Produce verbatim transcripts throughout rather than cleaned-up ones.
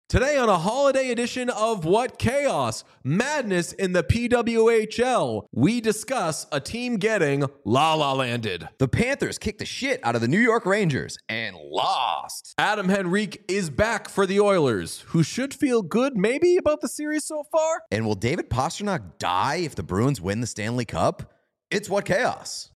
Today on a holiday edition of What Chaos? Madness in the P W H L, we discuss a team getting la-la-landed. The Panthers kicked the shit out of the New York Rangers and lost. Adam Henrique is back for the Oilers, who should feel good maybe about the series so far. And will David Pastrnak die if the Bruins win the Stanley Cup? It's What Chaos.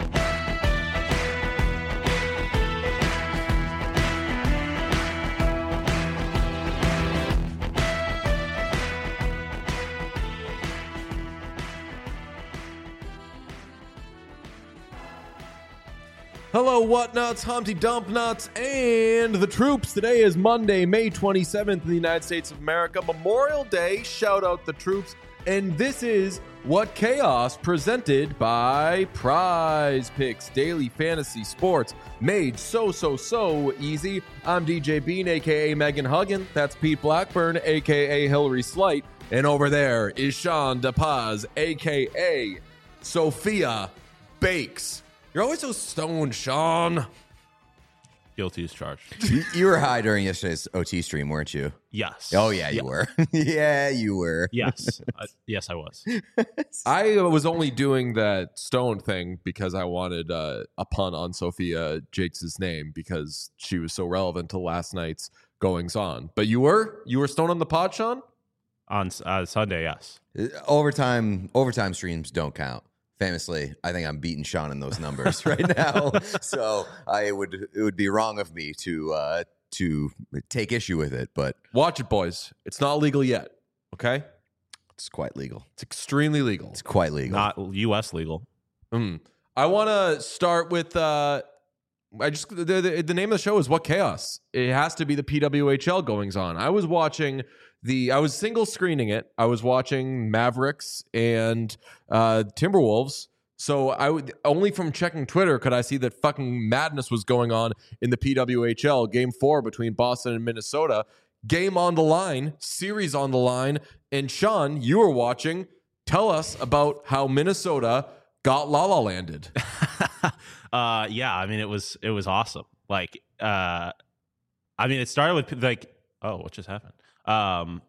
Hello, Whatnuts, Humpty Dump Nuts, and the troops. Today is Monday, May twenty-seventh in the United States of America, Memorial Day. Shout out the troops. And this is What Chaos, presented by Prize Picks, daily fantasy sports, made so, so, so easy. I'm D J Bean, a k a. Megan Huggin. That's Pete Blackburn, a k a. Hillary Slight. And over there is Sean DePaz, a k a. Sophia Bakes. You're always so stoned, Sean. Guilty as charged. you, you were high during yesterday's O T stream, weren't you? Yes. Oh, yeah, you yeah. were. yeah, you were. Yes. uh, yes, I was. I was only doing that stoned thing because I wanted uh, a pun on Sophia Jakes' name because she was so relevant to last night's goings on. But you were? You were stoned on the pod, Sean? On uh, Sunday, yes. Uh, Overtime, overtime streams don't count. Famously, I think I'm beating Sean in those numbers right now. So I would it would be wrong of me to uh, to take issue with it, but Watch it, boys. It's not legal yet, okay? it's quite legal. It's extremely legal. It's quite legal. Not U S legal. Mm. I want to start with uh, I just the, the the name of the show is What Chaos. It has to be the P W H L goings on. I was watching the I was single screening it. I was watching Mavericks and uh, Timberwolves. So I would only from checking Twitter could I see that fucking madness was going on in the P W H L. Game four between Boston and Minnesota. Game on the line, series on the line. And Sean, you were watching. Tell us about how Minnesota got la-la landed. uh, yeah, I mean, it was it was awesome. Like, uh, I mean, it started with like, oh, what just happened? Um,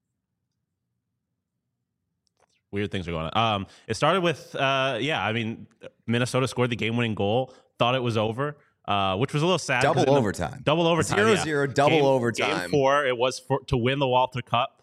weird things are going on. Um, it started with, uh, yeah, I mean, Minnesota scored the game-winning goal. Thought it was over, uh, which was a little sad. Double the, overtime. double overtime. Zero yeah. zero. Double game, overtime. Game four. It was for, to win the Walter Cup.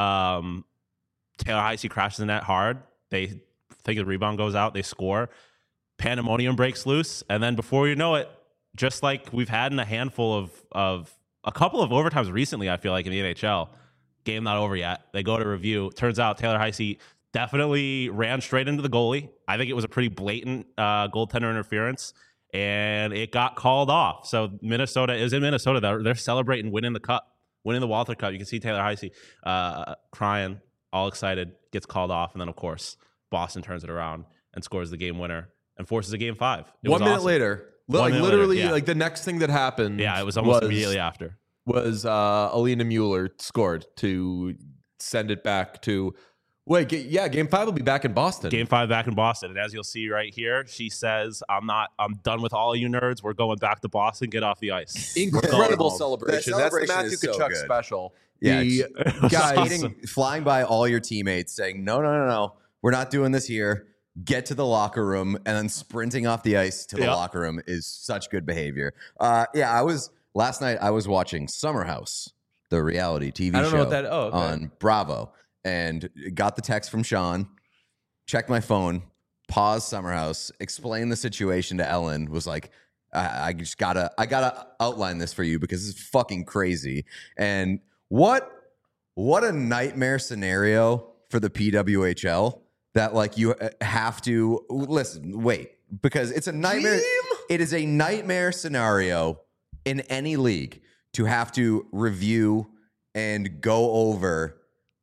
Um, Taylor Heise crashes the net hard. They think the rebound goes out. They score. Pandemonium breaks loose, and then before you know it, just like we've had in a handful of of a couple of overtimes recently, I feel like in the N H L, game not over yet. They go to review. Turns out Taylor Heise definitely ran straight into the goalie. I think it was a pretty blatant uh, goaltender interference, and it got called off. So Minnesota is in Minnesota. They're, they're celebrating winning the cup, winning the Walter Cup. You can see Taylor Heise uh, crying, all excited, gets called off, and then of course Boston turns it around and scores the game winner and forces a game five. It One was minute awesome. later. One Like minute literally, later, yeah. like the next thing that happened. Yeah, it was almost was, immediately after. Was uh, Alina Mueller scored to send it back to. Wait, g- yeah, Game Five will be back in Boston. Game five back in Boston, and as you'll see right here, she says, "I'm not. I'm done with all you nerds. We're going back to Boston. Get off the ice." Incredible That celebration. celebration That's the Matthew is so Tkachuk good. special. Yeah, the guys guys. flying by all your teammates saying, no, no, no, no, we're not doing this here. Get to the locker room and then sprinting off the ice to the Yep. locker room is such good behavior. Uh, yeah, I was last night I was watching Summer House, the reality T V I don't show know what that. Oh, okay. on Bravo, and got the text from Sean, checked my phone, paused Summer House, explained the situation to Ellen, was like, I, I just gotta, I gotta outline this for you because it's fucking crazy. And what, what a nightmare scenario for the P W H L that like you have to listen, wait, because it's a nightmare. Dream? It is a nightmare scenario in any league to have to review and go over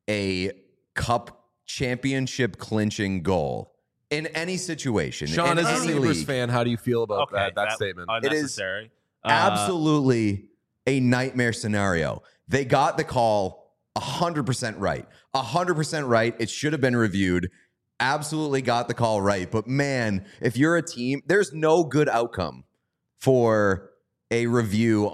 a cup championship clinching goal in any situation. Sean, in as a any Sabres league. fan, how do you feel about Okay, that, that statement? unnecessary. Uh, Absolutely a nightmare scenario. They got the call one hundred percent right. one hundred percent right. It should have been reviewed. Absolutely got the call right. But man, if you're a team, there's no good outcome for a review on a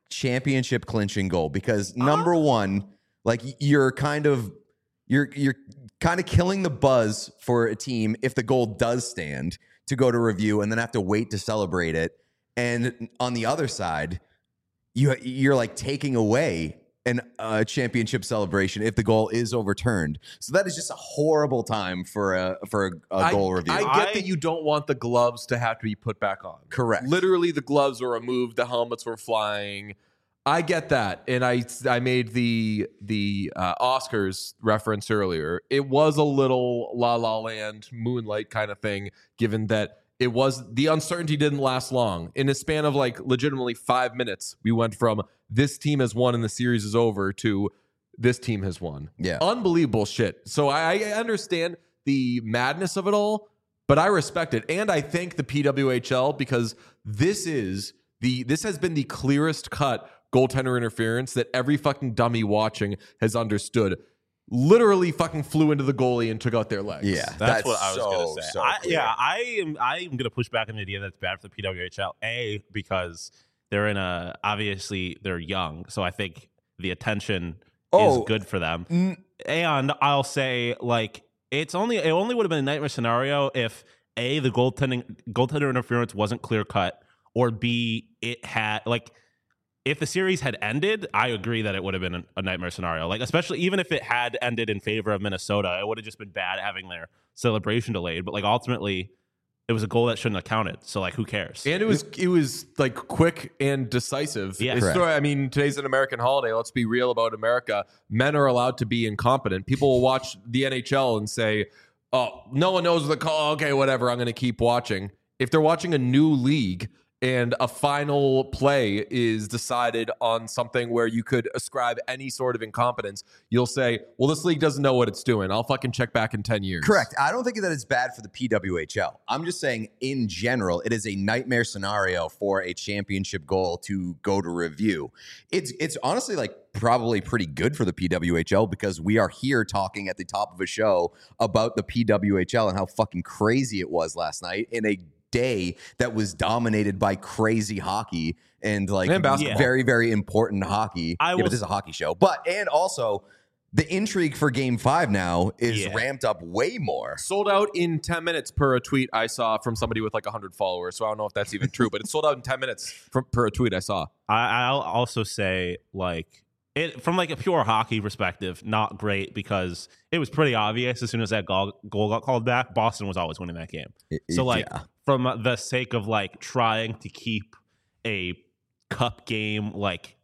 championship clinching goal because number one, like you're kind of you're you're kind of killing the buzz for a team if the goal does stand to go to review and then have to wait to celebrate it. And on the other side, you you're like taking away an uh, championship celebration if the goal is overturned. So that is just a horrible time for a for a, a goal I, review. I get I, that you don't want the gloves to have to be put back on. Correct. Literally, the gloves were removed, the helmets were flying. I get that, and I I made the the uh, Oscars reference earlier. It was a little La La Land, Moonlight kind of thing, given that it was the uncertainty didn't last long. In a span of like legitimately five minutes, we went from this team has won and the series is over to this team has won. Yeah, unbelievable shit. So I, I understand the madness of it all, but I respect it, and I thank the P W H L because this is the this has been the clearest cut goaltender interference that every fucking dummy watching has understood. Literally fucking flew into the goalie and took out their legs. Yeah, that's, that's what I was so, gonna say. So I, yeah, I am. I am gonna push back on the idea that's bad for the P W H L. A, because they're in a obviously they're young, so I think the attention oh, is good for them. N- and I'll say like it's only it only would have been a nightmare scenario if A, the goaltending goaltender interference wasn't clear cut, or B, it had like. If the series had ended, I agree that it would have been a nightmare scenario. Like, especially even if it had ended in favor of Minnesota, it would have just been bad having their celebration delayed. But like ultimately, it was a goal that shouldn't have counted. So like, who cares? And it was it was like quick and decisive. Yeah, It's sort of- I mean, today's an American holiday. Let's be real about America. Men are allowed to be incompetent. People will watch the N H L and say, "Oh, no one knows the call. Okay, whatever. I'm going to keep watching." If they're watching a new league and a final play is decided on something where you could ascribe any sort of incompetence, you'll say, well, this league doesn't know what it's doing. I'll fucking check back in ten years. Correct. I don't think that it's bad for the P W H L. I'm just saying, in general, it is a nightmare scenario for a championship goal to go to review. It's it's honestly like probably pretty good for the P W H L because we are here talking at the top of a show about the P W H L and how fucking crazy it was last night in a day that was dominated by crazy hockey and like and basketball. very, very important hockey. I yeah, will, but this is a hockey show. But and also the intrigue for game five now is yeah. ramped up way more. Sold out in ten minutes per a tweet I saw from somebody with like one hundred followers. So I don't know if that's even true, but it's sold out in ten minutes from, per a tweet I saw. I, I'll also say like it from like a pure hockey perspective, not great because it was pretty obvious as soon as that goal, goal got called back, Boston was always winning that game. It, so like yeah. from the sake of like trying to keep a cup game like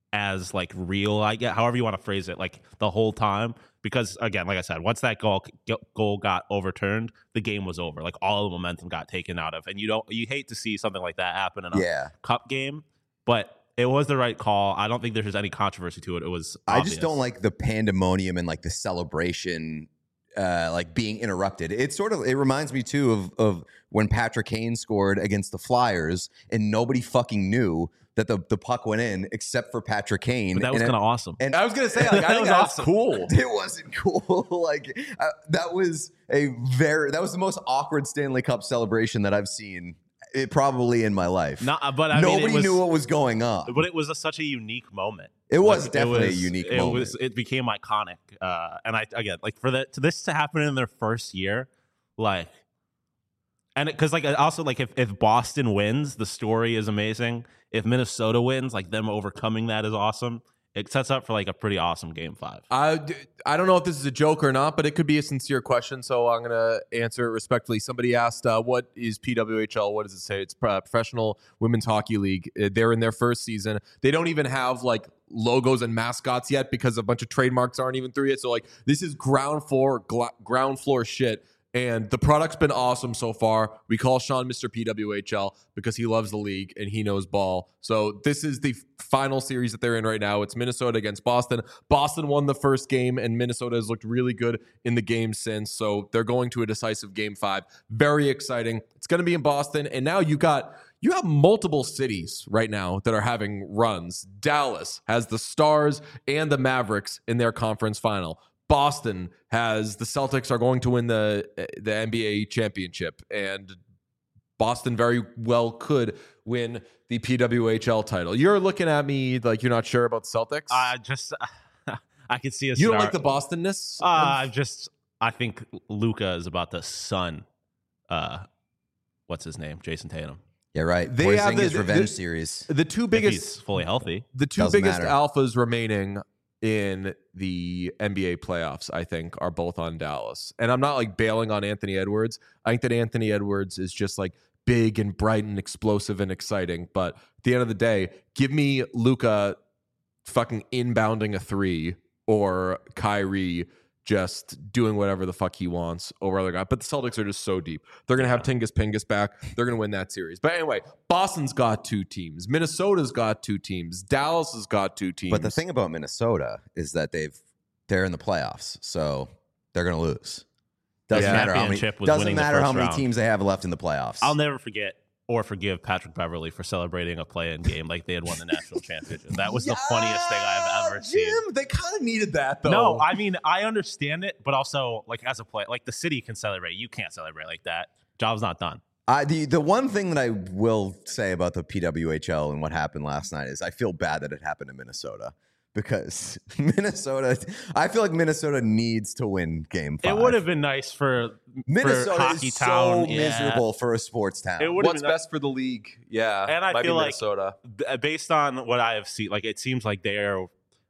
as like real, I get however you want to phrase it, like the whole time, because again, like I said, once that goal goal got overturned, the game was over. Like all the momentum got taken out of, and you don't you hate to see something like that happen in a yeah. cup game, but it was the right call. I don't think there's any controversy to it. It was obvious. I just don't like the pandemonium and like the celebration uh, like being interrupted. It sort of it reminds me too of of when Patrick Kane scored against the Flyers and nobody fucking knew that the, the puck went in except for Patrick Kane. But that was kind of awesome. And I was gonna say, like, I That think was that's awesome. cool. It wasn't cool. like uh, that was a very that was the most awkward Stanley Cup celebration that I've seen. It probably in my life. Not, but I Nobody mean, it was, knew what was going on. But it was a, such a unique moment. It was Like, definitely it was, a unique it moment. Was, it became iconic. Uh, and I again, like for the to this to happen in their first year, like, and because like also like if if Boston wins, the story is amazing. If Minnesota wins, like them overcoming that is awesome. It sets up for like a pretty awesome game five. I, I don't know if this is a joke or not, but it could be a sincere question, so I'm going to answer it respectfully. Somebody asked, uh, what is P W H L? What does it say? It's uh, Professional Women's Hockey League. Uh, They're in their first season. They don't even have like logos and mascots yet because a bunch of trademarks aren't even through yet. So like this is ground floor, gla- ground floor shit. And the product's been awesome so far. We call Sean Mister P W H L because he loves the league and he knows ball. So this is the final series that they're in right now. It's Minnesota against Boston. Boston won the first game, and Minnesota has looked really good in the game since. So they're going to a decisive game five. Very exciting. It's going to be in Boston. And now you got you have multiple cities right now that are having runs. Dallas has the Stars and the Mavericks in their conference final. Boston has the Celtics are going to win the the N B A championship, and Boston very well could win the P W H L title. You're looking at me like you're not sure about the Celtics. I just I could see a you don't scenario- like the Bostonness? Uh, I just I think Luka is about to sun. Uh, what's his name? Jason Tatum. Yeah, right. They have Porzingis the- revenge the- series. the two If biggest he's fully healthy. the two Doesn't biggest matter. alphas remaining in the N B A playoffs, I think, are both on Dallas. And I'm not like bailing on Anthony Edwards. I think that Anthony Edwards is just like big and bright and explosive and exciting. But at the end of the day, give me Luka fucking inbounding a three or Kyrie just doing whatever the fuck he wants over other guys. But the Celtics are just so deep. They're going to have Tingus Pingus back. They're going to win that series. But anyway, Boston's got two teams. Minnesota's got two teams. Dallas has got two teams. But the thing about Minnesota is that they've they're in the playoffs, so they're going to lose. Doesn't Yeah. matter how many. Championship was Doesn't winning the matter how first many round. teams they have left in the playoffs. I'll never forget or forgive Patrick Beverly for celebrating a play-in game like they had won the national championship. That was the funniest thing I've ever Jim, seen. they kind of needed that, though. No, I mean, I understand it, but also, like, as a play, like, the city can celebrate. You can't celebrate like that. Job's not done. I, the the one thing that I will say about the P W H L and what happened last night is I feel bad that it happened in Minnesota because Minnesota. I feel like Minnesota needs to win Game Five. It would have been nice for, Minnesota for Hockey is Town. so yeah. miserable for a sports town. It would have What's been nice. best for the league? Yeah, And I might feel be like- Minnesota. B- based on what I have seen, like, it seems like they're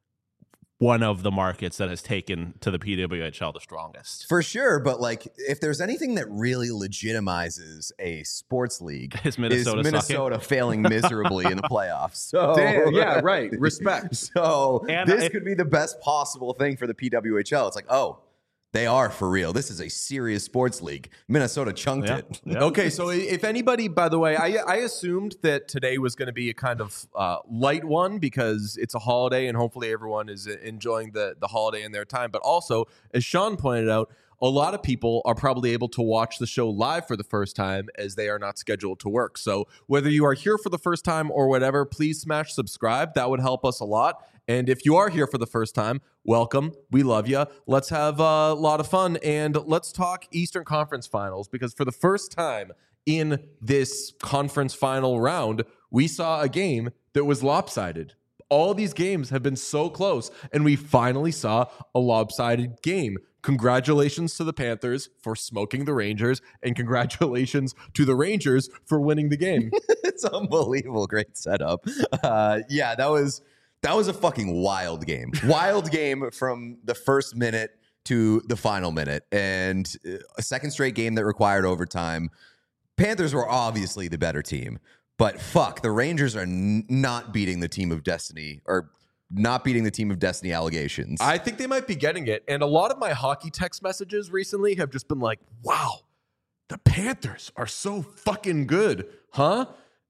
one of the markets that has taken to the P W H L the strongest. For sure, but like if there's anything that really legitimizes a sports league, Is Minnesota is Minnesota sucking? failing miserably in the playoffs. So Damn, yeah, right. Respect. So And this if- could be the best possible thing for the P W H L. It's like, oh, they are for real. This is a serious sports league. Minnesota chunked Yeah. it. Yeah. Okay, so if anybody, by the way, I, I assumed that today was going to be a kind of uh, light one because it's a holiday and hopefully everyone is enjoying the, the holiday in their time. But also, as Sean pointed out, a lot of people are probably able to watch the show live for the first time as they are not scheduled to work. So whether you are here for the first time or whatever, please smash subscribe. That would help us a lot. And if you are here for the first time, welcome. We love you. Let's have a lot of fun and let's talk Eastern Conference Finals because for the first time in this conference final round, we saw a game that was lopsided. All these games have been so close, and we finally saw a lopsided game. Congratulations to the Panthers for smoking the Rangers, and congratulations to the Rangers for winning the game. It's unbelievable. Great setup. Uh, yeah, that was that was a fucking wild game. Wild game from the first minute to the final minute, and a second straight game that required overtime. Panthers were obviously the better team, but fuck, the Rangers are n- not beating the team of destiny or not beating the team of destiny allegations. I think they might be getting it. And a lot of my hockey text messages recently have just been like, wow, the Panthers are so fucking good, huh?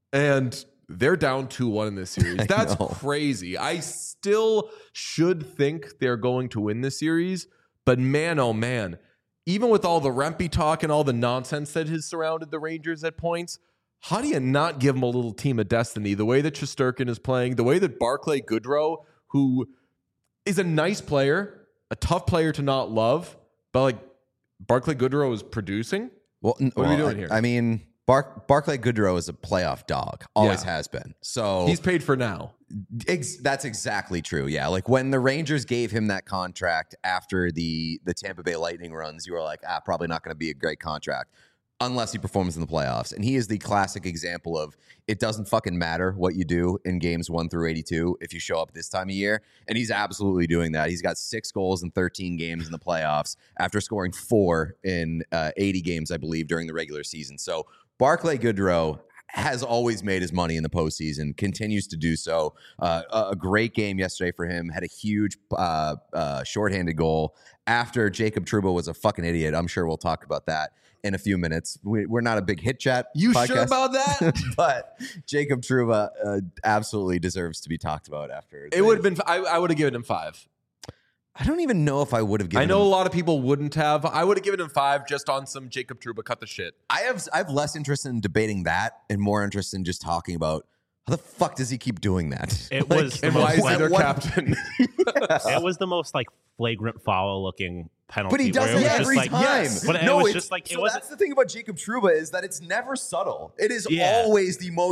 And they're down two one in this series. That's know. crazy. I still should think they're going to win this series, but man, oh man, even with all the Rempe talk and all the nonsense that has surrounded the Rangers at points, how do you not give them a little team of destiny? The way that Shesterkin is playing, the way that Barclay Goodrow, who is a nice player, a tough player to not love, but like Barclay Goodrow is producing. well, n- What are we well, doing I- here? I mean, Bar- Barclay Goodrow is a playoff dog. Always Yeah. has been. So He's paid for now. Ex- that's exactly true. Yeah, like when the Rangers gave him that contract after the the Tampa Bay Lightning runs, you were like, ah, probably not going to be a great contract unless he performs in the playoffs. And he is the classic example of it doesn't fucking matter what you do in games one through eighty-two if you show up this time of year. And he's absolutely doing that. He's got six goals in thirteen games in the playoffs after scoring four in uh, eighty games, I believe, during the regular season. So Barclay Goodrow has always made his money in the postseason, continues to do so. Uh, a, a great game yesterday for him. Had a huge uh, uh, shorthanded goal after Jacob Trouba was a fucking idiot. I'm sure we'll talk about that in a few minutes. We, we're not a big hit chat. You podcast, sure about that? but Jacob Trouba uh, absolutely deserves to be talked about after. It would have been, I, I would have given him five. I don't even know if I would have given I know him- a lot of people wouldn't have. I would have given him five just on some Jacob Trouba cut the shit. I have I have less interest in debating that and more interest in just talking about how the fuck does he keep doing that? It was the And most, why is he what- their what- captain? it was the most like flagrant foul looking penalty. But he does where it was every just, like, time. But it no, was it's- just like it so wasn't. that's the thing about Jacob Trouba is that it's never subtle. It is Yeah. always the most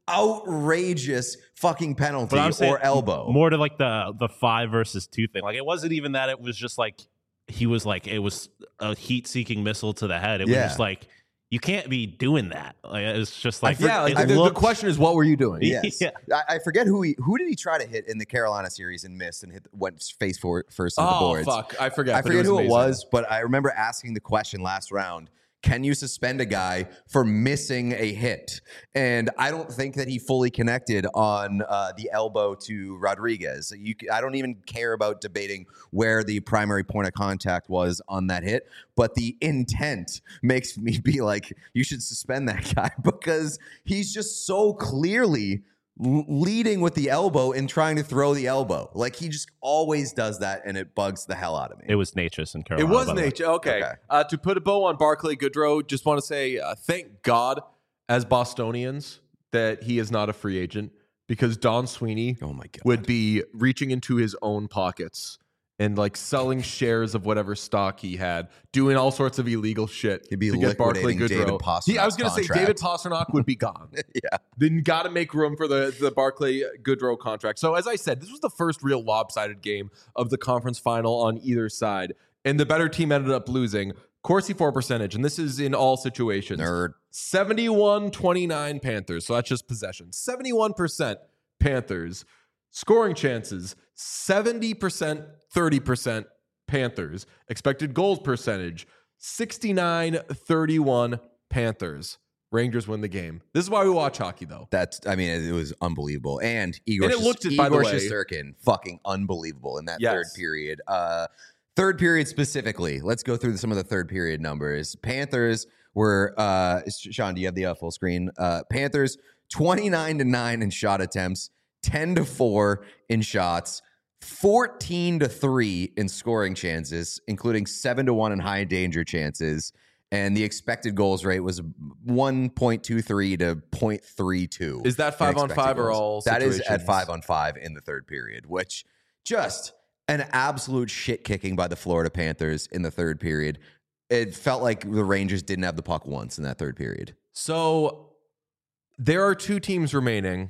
outrageous fucking penalty But I'm saying or elbow. more to like the the five versus two thing. Like it wasn't even that. It was just like he was like it was a heat seeking missile to the head. It Yeah. was just like you can't be doing that. Like it's just like yeah, like it the, the looked- question is, what were you doing? Yes. Yeah. I, I forget who he who did he try to hit in the Carolina series and missed and hit went face for, first on the Oh boards. fuck, I forget. I but forget who amazing. it was, but I remember asking the question last round. Can you suspend a guy for missing a hit? And I don't think that he fully connected on uh, the elbow to Rodriguez. You, I don't even care about debating where the primary point of contact was on that hit, but the intent makes me be like, you should suspend that guy because he's just so clearly l- leading with the elbow and trying to throw the elbow. Like he just always does that, and it bugs the hell out of me. It was Natchez in It Carolina. was by the way. nature. Okay. Okay. Uh, to put a bow on Barclay Goodrow, just want to say uh, thank God as Bostonians that he is not a free agent because Don Sweeney Oh my God. would be reaching into his own pockets and like selling shares of whatever stock he had, doing all sorts of illegal shit. He'd be to get Barclay liquidating David Goodrow. He, I was going to say Pastrnak's David Pastrnak would be gone. Yeah. Then got to make room for the the Barclay Goodrow contract. So as I said, this was the first real lopsided game of the conference final on either side, and the better team ended up losing. Corsi for percentage, and this is in all situations. Nerd. seventy-one twenty-nine Panthers. So that's just possession. seventy-one percent Panthers. Scoring chances, seventy percent, thirty percent Panthers. Expected goals percentage, sixty-nine thirty-one Panthers. Rangers win the game. This is why we watch hockey, though. That's, I mean, it was unbelievable. And Igor, And it looked it, by the Igor way. Shesterkin, fucking unbelievable in that Yes. third period. Uh, third period specifically. Let's go through some of the third period numbers. Panthers were, uh, Sean, do you have the uh, full screen? Uh, Panthers, twenty-nine to nine in shot attempts, ten to four in shots, fourteen to three in scoring chances, including seven to one in high danger chances. And the expected goals rate was one point two three to point three two. Is that five in on expected five or goals. all That is at situations? five on five in the third period, which just an absolute shit kicking by the Florida Panthers in the third period. It felt like the Rangers didn't have the puck once in that third period. So there are two teams remaining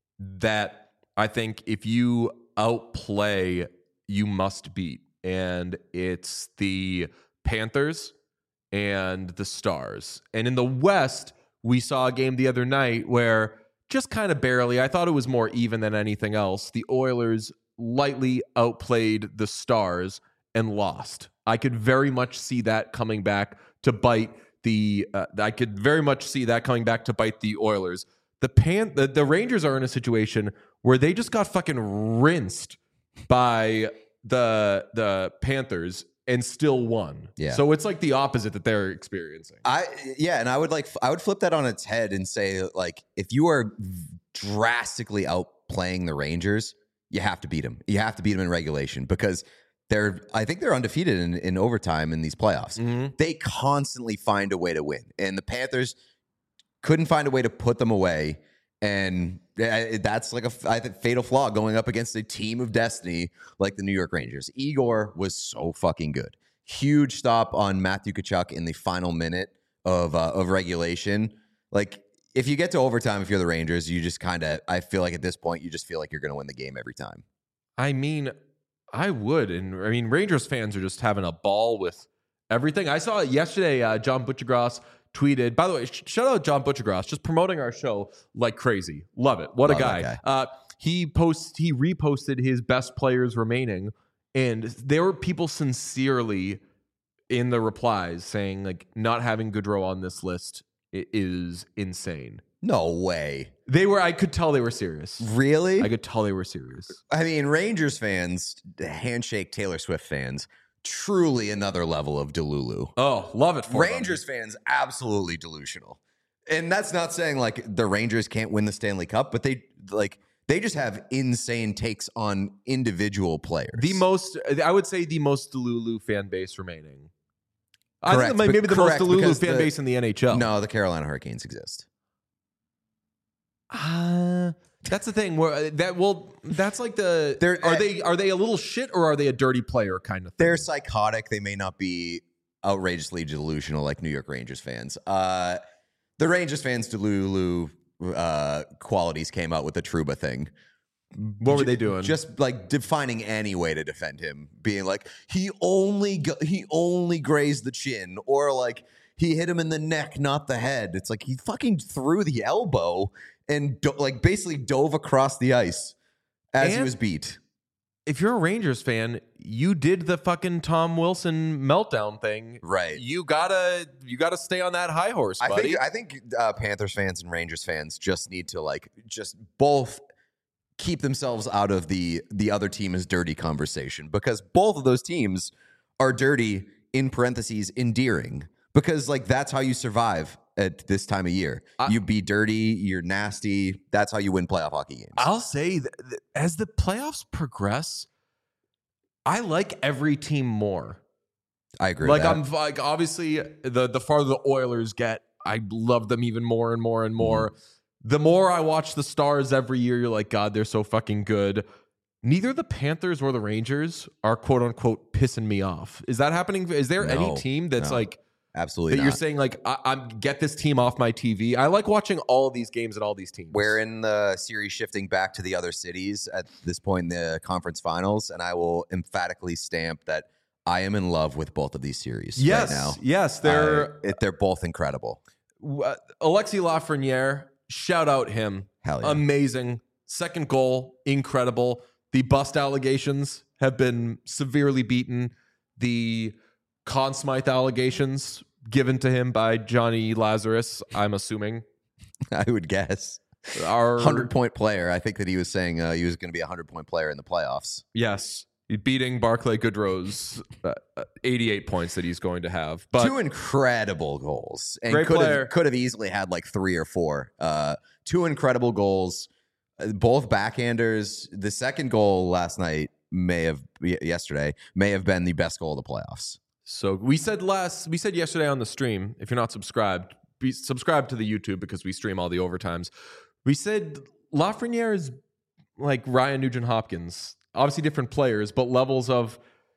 that I think if you outplay, you must beat. And it's the Panthers and the Stars. And in the West, we saw a game the other night where just kind of barely, I thought it was more even than anything else. The Oilers lightly outplayed the Stars and lost. I could very much see that coming back to bite the uh, I could very much see that coming back to bite the Oilers. The pan the, the Rangers are in a situation where they just got fucking rinsed by the the Panthers and still won. Yeah. So it's like the opposite that they're experiencing. I yeah, and I would like I would flip that on its head and say, like, if you are drastically outplaying the Rangers, you have to beat them. You have to beat them in regulation because they're I think they're undefeated in, in overtime in these playoffs. Mhm. They constantly find a way to win, and the Panthers couldn't find a way to put them away. And that's like a I think fatal flaw going up against a team of destiny like the New York Rangers. Igor was so fucking good. Huge stop on Matthew Tkachuk in the final minute of uh, of regulation. Like, if you get to overtime, if you're the Rangers, you just kind of, I feel like at this point, you just feel like you're going to win the game every time. I mean, I would. And I mean, Rangers fans are just having a ball with everything. I saw it yesterday. Uh, John Butchergross tweeted, by the way, sh- shout out John Butchergross, just promoting our show like crazy. Love it. What Love a that guy. guy. Uh, he posts, he reposted his best players remaining. And there were people sincerely in the replies saying, like, not having Goodrow on this list i- is insane. No way. They were, I could tell they were serious. Really? I could tell they were serious. I mean, Rangers fans, handshake Taylor Swift fans, truly another level of Delulu. Oh, love it for them. Rangers fans, absolutely delusional. And that's not saying like the Rangers can't win the Stanley Cup, but they like they just have insane takes on individual players. The most, I would say, the most Delulu fan base remaining. I Correct, think maybe but the correct, most Delulu because fan the- base in the N H L. No, the Carolina Hurricanes exist. Uh, that's the thing. Where that well, that's like the. They're- are they are they a little shit or are they a dirty player kind of thing? They're psychotic. They may not be outrageously delusional like New York Rangers fans. Uh, the Rangers fans, Delulu, uh, qualities came out with the Trouba thing. What were they doing? Just like defining any way to defend him, being like he only go- he only grazed the chin, or like he hit him in the neck, not the head. It's like he fucking threw the elbow and do- like basically dove across the ice as And he was beat. If you're a Rangers fan, you did the fucking Tom Wilson meltdown thing. Right. You gotta you gotta stay on that high horse, buddy. I think I think uh, Panthers fans and Rangers fans just need to like just both keep themselves out of the the other team is dirty conversation, because both of those teams are dirty, in parentheses endearing, because like that's how you survive at this time of year. I, you be dirty, you're nasty. That's how you win playoff hockey games. I'll say that that as the playoffs progress, I like every team more. I agree. Like with that. I'm like obviously the the farther the Oilers get, I love them even more and more and more. Mm-hmm. The more I watch the Stars every year, you're like, God, they're so fucking good. Neither the Panthers or the Rangers are quote unquote pissing me off. Is that happening? Is there No, any team that's no, like absolutely that not. you're saying like I, I'm get this team off my T V? I like watching all of these games and all these teams. We're in the series shifting back to the other cities at this point in the conference finals, and I will emphatically stamp that I am in love with both of these series yes, right now. Yes, they're I, it, they're both incredible. uh, Alexis Lafreniere. Shout out him. Hell yeah. Amazing. Second goal, incredible. The bust allegations have been severely beaten. The Conn Smythe allegations given to him by Johnny Lazarus, I'm assuming, I would guess. are one hundred point player. I think that he was saying uh, he was going to be a one hundred point player in the playoffs. Yes. Beating Barclay Goodrow's uh, eighty-eight points that he's going to have. But two incredible goals. And Great could player. have could have easily had like three or four. Uh, two incredible goals. Uh, both backhanders. The second goal last night may have yesterday may have been the best goal of the playoffs. So we said last we said yesterday on the stream, if you're not subscribed, be subscribe to the YouTube because we stream all the overtimes. We said Lafreniere is like Ryan Nugent-Hopkins. Obviously different players, but levels of,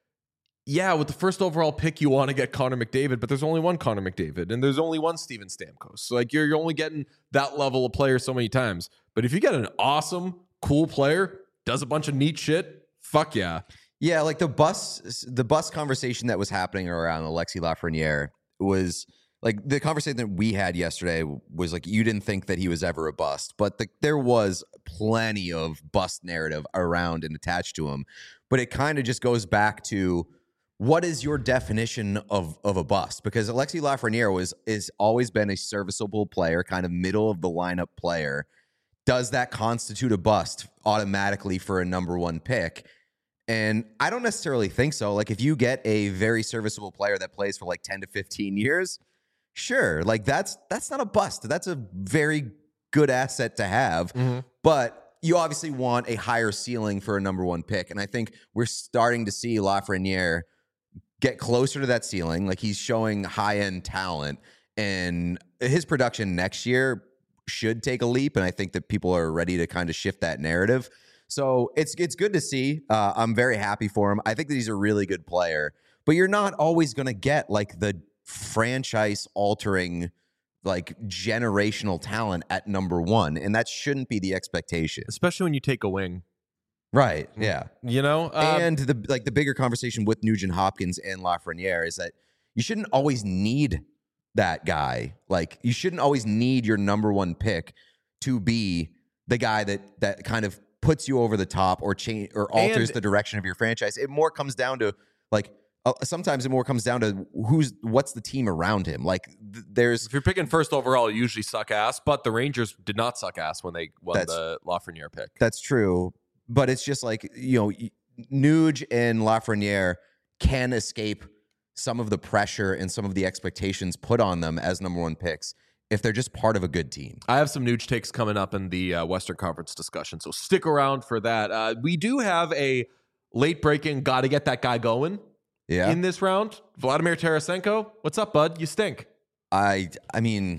yeah, with the first overall pick, you want to get Connor McDavid, but there's only one Connor McDavid, and there's only one Steven Stamkos. So, like, you're, you're only getting that level of player so many times. But if you get an awesome, cool player, does a bunch of neat shit, fuck yeah. Yeah, like the bus, the bus conversation that was happening around Alexis Lafreniere was like the conversation that we had yesterday was like you didn't think that he was ever a bust, but the, there was plenty of bust narrative around and attached to him. But it kind of just goes back to what is your definition of of a bust? Because Alexis Lafreniere was is always been a serviceable player, kind of middle of the lineup player. Does that constitute a bust automatically for a number one pick? And I don't necessarily think so. Like if you get a very serviceable player that plays for like ten to fifteen years, sure, like that's that's not a bust. That's a very good asset to have. Mm-hmm. But you obviously want a higher ceiling for a number one pick. And I think we're starting to see Lafreniere get closer to that ceiling. Like he's showing high-end talent. And his production next year should take a leap. And I think that people are ready to kind of shift that narrative. So it's it's good to see. Uh, I'm very happy for him. I think that he's a really good player. But you're not always going to get like the franchise altering, like generational talent at number one, and that shouldn't be the expectation, especially when you take a wing, right? Yeah, you know. Um, and the like the bigger conversation with Nugent Hopkins and Lafreniere is that you shouldn't always need that guy. Like you shouldn't always need your number one pick to be the guy that that kind of puts you over the top or change or alters and, the direction of your franchise. It more comes down to like. Uh, sometimes it more comes down to who's what's the team around him. Like th- there's if you're picking first overall, you usually suck ass. But the Rangers did not suck ass when they won the Lafreniere pick. That's true, but it's just like you know, Nuge and Lafreniere can escape some of the pressure and some of the expectations put on them as number one picks if they're just part of a good team. I have some Nuge takes coming up in the uh, Western Conference discussion, so stick around for that. Uh, we do have a late breaking. Got to get that guy going. Yeah. In this round, Vladimir Tarasenko, what's up, bud? You stink. I I mean,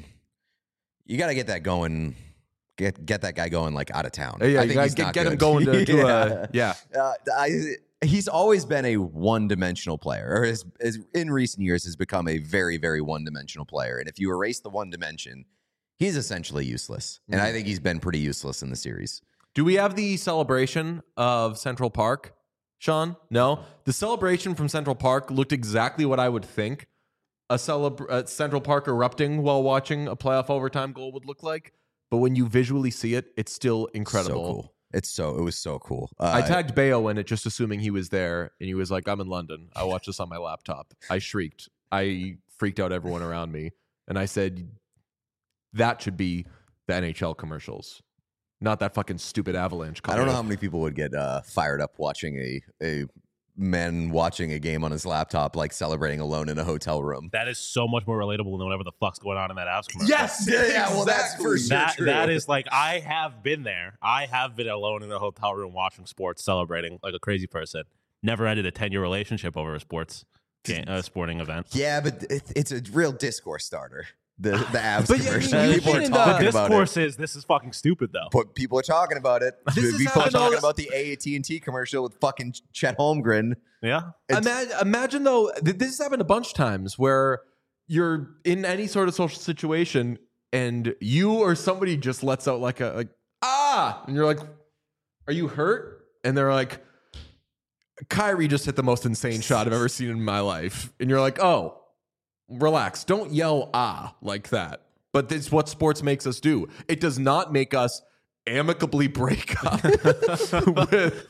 you got to get that going. Get get that guy going like out of town. Yeah, I you think gotta he's get, not get good. him going to, to yeah. a yeah. Uh, I he's always been a one-dimensional player, or has, has in recent years has become a very very one-dimensional player. And if you erase the one dimension, he's essentially useless. And Mm. I think he's been pretty useless in the series. Do we have the celebration of Central Park, Sean? No. The celebration from Central Park looked exactly what I would think a celebr- uh, Central Park erupting while watching a playoff overtime goal would look like. But when you visually see it, it's still incredible. So cool. It's so, it was so cool. Uh, I tagged Bayo in it just assuming he was there, and he was like, I'm in London. I watched this on my laptop. I shrieked. I freaked out everyone around me. And I said, that should be the N H L commercials. Not that fucking stupid Avalanche. I don't know how many people would get uh, fired up watching a a man watching a game on his laptop, like celebrating alone in a hotel room. That is so much more relatable than whatever the fuck's going on in that Avs commercial. Yes, Yeah, yeah, well, that's for sure. That, true. that is like, I have been there. I have been alone in a hotel room watching sports, celebrating like a crazy person. Never ended a ten-year relationship over a sports game, a sporting event. Yeah, but it, it's a real discourse starter. The the abs But yeah, commercial. you- People are you The talking about it. discourse is, this is fucking stupid, though. But people are talking about it. This is people are happening talking all- about the A T and T commercial with fucking Chet Holmgren. Yeah. It's- Imagine, imagine though, th- this has happened a bunch of times where you're in any sort of social situation and you or somebody just lets out like a like ah, and you're like, "Are you hurt?" And they're like, "Kyrie just hit the most insane shot I've ever seen in my life," and you're like, "Oh, relax, don't yell ah like that." But this is what sports makes us do. It does not make us amicably break up with.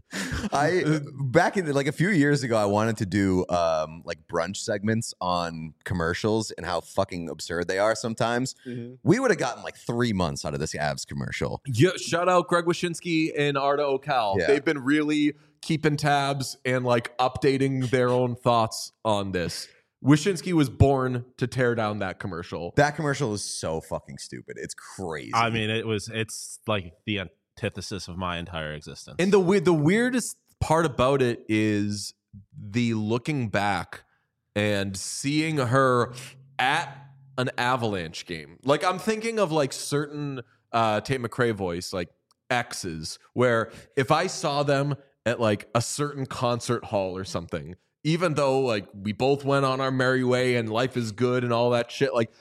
I back in like a few years ago, I wanted to do um, like brunch segments on commercials and how fucking absurd they are sometimes. We would have gotten like three months out of this Avs commercial. Yeah, shout out Greg Wyshynski and Arda Ocal. Yeah. They've been really keeping tabs and like updating their own thoughts on this. Wyshynski was born to tear down that commercial. That commercial is so fucking stupid. It's crazy. I mean, it was, it's like the antithesis of my entire existence. And the we- the weirdest part about it is the looking back and seeing her at an Avalanche game. Like I'm thinking of like certain uh, Tate McRae voice, like exes, where if I saw them at like a certain concert hall or something, even though like we both went on our merry way and life is good and all that shit, like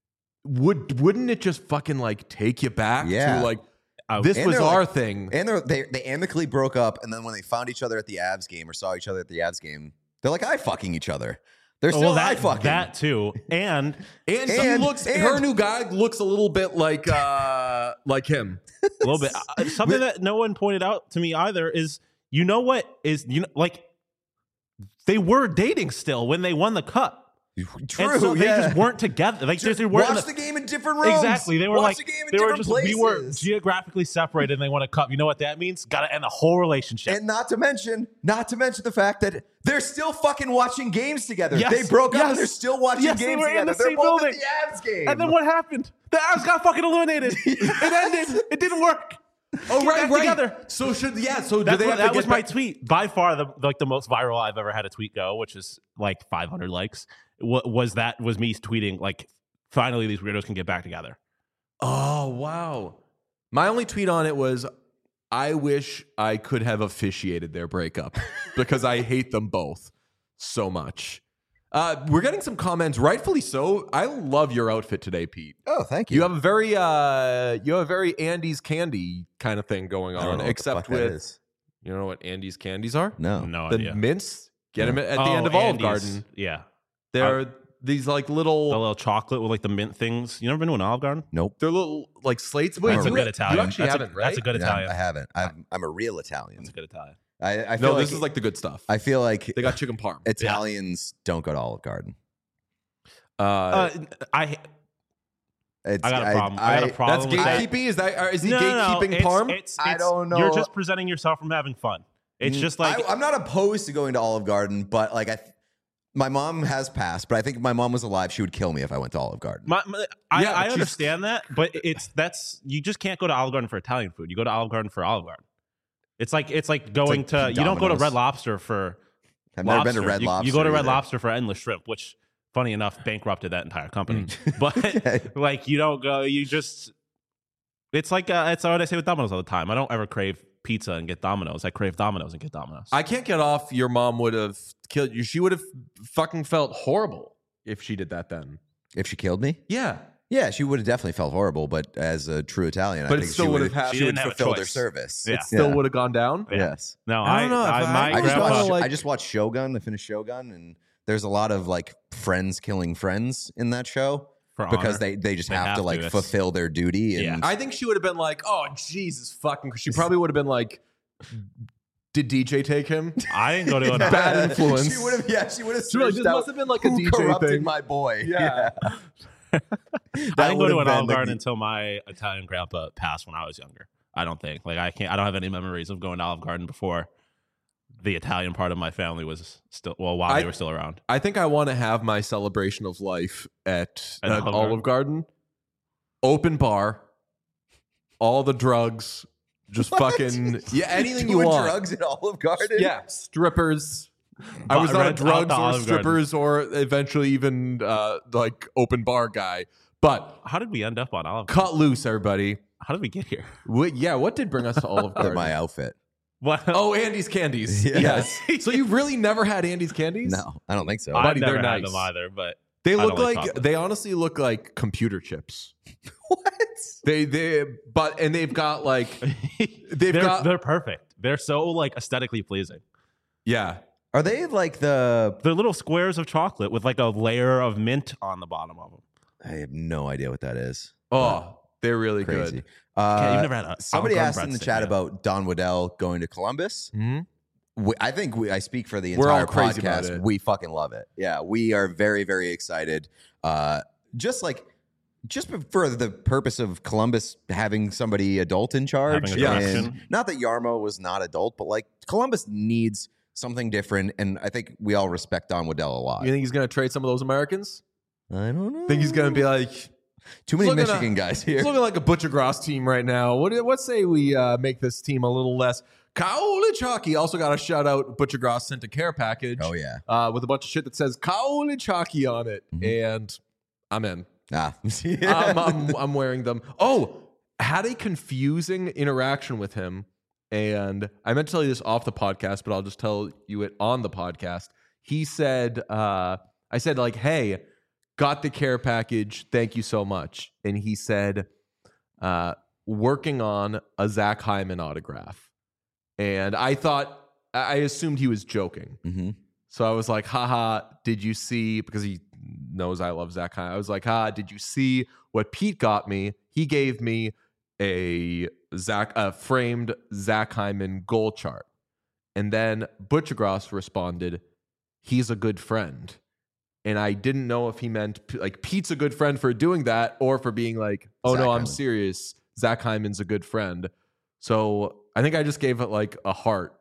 would wouldn't it just fucking like take you back Yeah. to like I- this And was they're our like- thing? and they're, they they amicably broke up, and then when they found each other at the Avs game or saw each other at the Avs game, they're like, "I fucking each other." They're still well, I that, fucking. that too. And And, he And- looks and- her new guy looks a little bit like uh like him. a little bit, uh, something that no one pointed out to me either is, you know what is, you know, like they were dating still when they won the cup. True, And so they yeah. just weren't together. Like Just they weren't in watch the- the game in different rooms. Exactly. They were Watch like, the game in they were different just, places. we were geographically separated and they won a cup. You know what that means? Got to end the whole relationship. And not to mention, not to mention the fact that they're still fucking watching games together. Yes, They broke up yes. and they're still watching Yes, they games were in together. the They're same both building. at the Avs game. And then what happened? The Avs got fucking eliminated. It ended. It didn't work. Oh Get right, back right. together. So should yeah. So do That's they what, have to that get was my back- tweet. By far, the like the most viral I've ever had a tweet go, which is like five hundred likes. What was that? Was me tweeting like, finally these weirdos can get back together. Oh wow. My only tweet on it was, I wish I could have officiated their breakup because I hate them both so much. Uh, we're getting some comments, rightfully so. I love your outfit today, Pete. oh, thank you. You have a very uh, you have a very Andy's Candy kind of thing going I don't on, know what the except fuck that with is. you know what Andy's candies are? No. No The idea. mints. Get them at the Oh, end of Olive Andes. Garden. Yeah, They're these like the little, little chocolate with like the mint things. You never been to an Olive Garden? Nope. they're little like slates. Wait, That's a you, good Italian. you actually that's haven't, a, right? That's a good Yeah, Italian. I haven't. I'm, I'm a real Italian. That's a good Italian. I, I feel No, like this is like the good stuff. I feel like They got chicken parm. Italians don't go to Olive Garden. Uh, Uh, I It's, I got a problem. I, got a that's problem. with that. gatekeeping. Is that or is he No, no, no, gatekeeping it's- parm? It's, I it's- don't know. You're just presenting yourself from having fun. It's Mm, just like I, I'm not opposed to going to Olive Garden, but like I, th- my mom has passed. But I think if my mom was alive, she would kill me if I went to Olive Garden. My, my, I, Yeah, I she's- understand that, but it's that's you just can't go to Olive Garden for Italian food. You go to Olive Garden for Olive Garden. It's like it's like going like to you don't go to Domino's. Red Lobster for I've never been lobster. to Red You- Lobster. You, go to Red either. Lobster for endless shrimp, which funny enough bankrupted that entire company. Mm. But like you don't go, you just it's like uh, it's what I say with Domino's all the time. I don't ever crave pizza and get Domino's. I crave Domino's and get Domino's. I can't get off. Your mom would have killed you. She would have fucking felt horrible if she did that then. If she killed me, Yeah. Yeah, she would have definitely felt horrible, but as a true Italian, But I it think still she would would have had- She she would didn't have a fulfill their choice. service. Yeah. It still Yeah. would have gone down. Yeah. Yes. No, I I, don't know if I, I- my I I just grandpa- grandpa. watched. like- I just watched Shogun. I finished Shogun, and there's a lot of like friends killing friends in that show For because honor. they they just They have, have to to. like It's- fulfill their duty. And Yeah. I think she would have been like, "Oh Jesus, fucking." She probably would have been like, "Did D J take him?" I didn't go to an Bad influence. She would have. Yeah, she would have. She was like, "This must have been like a who D J corrupted thing." my boy. Yeah. I didn't go would to have an Olive been the- Garden until my Italian grandpa passed when I was younger. I don't think. Like I can't. I don't have any memories of going to Olive Garden before the Italian part of my family was still. Well, while I- they were still around. I think I want to have my celebration of life at, At at Olive Olive Garden. Open bar, all the drugs, just What? fucking yeah, anything you Doing want. drugs at Olive Garden. Yeah, strippers. I But was not a rent out drugs the or Olive Garden. strippers or eventually even uh, like open bar guy. But How did we end up on Olive Garden? cut loose, everybody. How did we get here? What, yeah, what did bring us to Olive Look Garden? at my outfit. What? Oh, Andy's Candies. Yeah. Yes. So you've really never had Andy's Candies? No, I don't think so. I've buddy, never they're had nice. them either. But They I look don't like like, chocolate. they honestly look like computer chips. What? They they but and they've got like They've they're, got- they're perfect. They're so like aesthetically pleasing. yeah. Are they like the? They're little squares of chocolate with like a layer of mint on the bottom of them. I have no idea what that is. Oh, they're really Crazy. good. Uh, Yeah, you've never had a somebody Olive asked Garden in the breadstick, chat yeah. about Don Waddell going to Columbus. Hmm? We, I think we, I speak for the We're all entire crazy about podcast. it. We fucking love it. Yeah, we are very, very excited. Uh, just like, just for the purpose of Columbus having somebody adult in charge. Having a and direction. not that Yarmo was not adult, but like Columbus needs something different. And I think we all respect Don Waddell a lot. You think he's gonna trade some of those Americans? I don't know. Think he's gonna be like too many It's looking Michigan at- guys here. it's looking like a Butcher Gross team right now. What what say we uh, make this team a little less Kaoli Chalky? Also got a shout out. Butcher Gross sent a care package. Oh yeah. Uh, with a bunch of shit that says Kaoli Chalky on it, and I'm in. Ah. I'm, I'm, I'm wearing them. Oh, had a confusing interaction with him. And I meant to tell you this off the podcast, but I'll just tell you it on the podcast. He said, uh, I said, like, hey, got the care package. Thank you so much. And he said, uh, working on a Zach Hyman autograph. And I thought, I assumed he was joking. Mhm. So I was like, haha, did you see, because he knows I love Zach Hyman. I was like, ha, did you see what Pete got me? He gave me a Zach, a framed Zach Hyman goal chart. And then Butchergross responded, he's a good friend. And I didn't know if he meant like Pete's a good friend for doing that or for being like, oh Zach no, I'm Hyman. serious. Zach Hyman's a good friend. So I think I just gave it like a heart.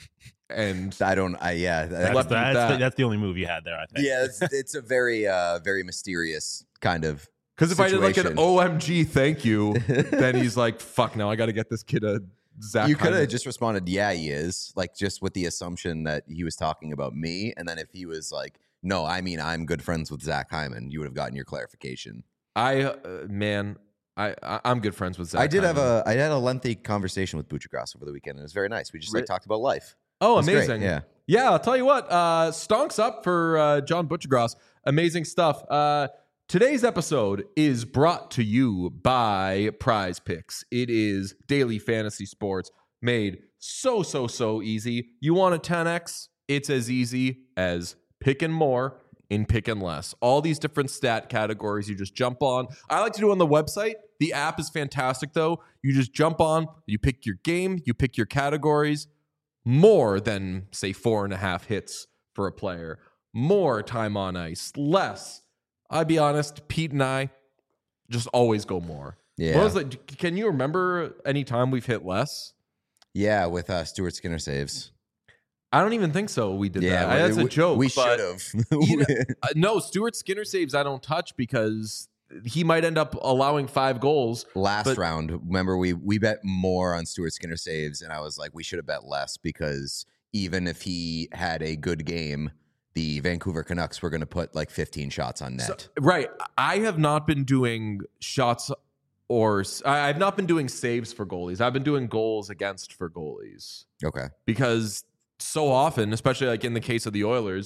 And I don't. I yeah. That's, Left it at that's, that. the, that's the only move you had there, I think. Yeah, it's, it's a very, uh, very mysterious kind of. because if I did like an situation. O M G thank you, then he's like, fuck, now I got to get this kid a Zach You could Hyman. have just responded, "Yeah, he is," like just with the assumption that he was talking about me, and then if he was like, "No, I mean I'm good friends with Zach Hyman," you would have gotten your clarification. I, uh, man, I, I, I'm good friends with Zach I did have Hyman. a, I had a lengthy conversation with Butchergrass over the weekend. It was very nice. We just like Re- talked about life. Oh, It was great, amazing. Yeah. Yeah, I'll tell you what, uh, stonks up for uh, John Butchergross. Amazing stuff. Uh, today's episode is brought to you by Prize Picks. It is daily fantasy sports made so, so, so easy. You want a ten X? It's as easy as picking more and picking less. All these different stat categories you just jump on. I like to do it on the website. The app is fantastic, though. You just jump on, you pick your game, you pick your categories. More than, say, four and a half hits for a player. More time on ice. Less. I'll be honest, Pete and I just always go more. Yeah. What was it? Can you remember any time we've hit less? Yeah, with uh, Stuart Skinner saves. I don't even think so. We did Yeah, that. That's we, a joke. We but should have. you know, uh, no, Stuart Skinner saves I don't touch because he might end up allowing five goals. Last But- round, remember we we bet more on Stuart Skinner saves, and I was like, we should have bet less because even if he had a good game, the Vancouver Canucks were going to put like fifteen shots on net. So- right. I have not been doing shots or I- I've not been doing saves for goalies. I've been doing goals against for goalies okay. because so often, especially like in the case of the Oilers,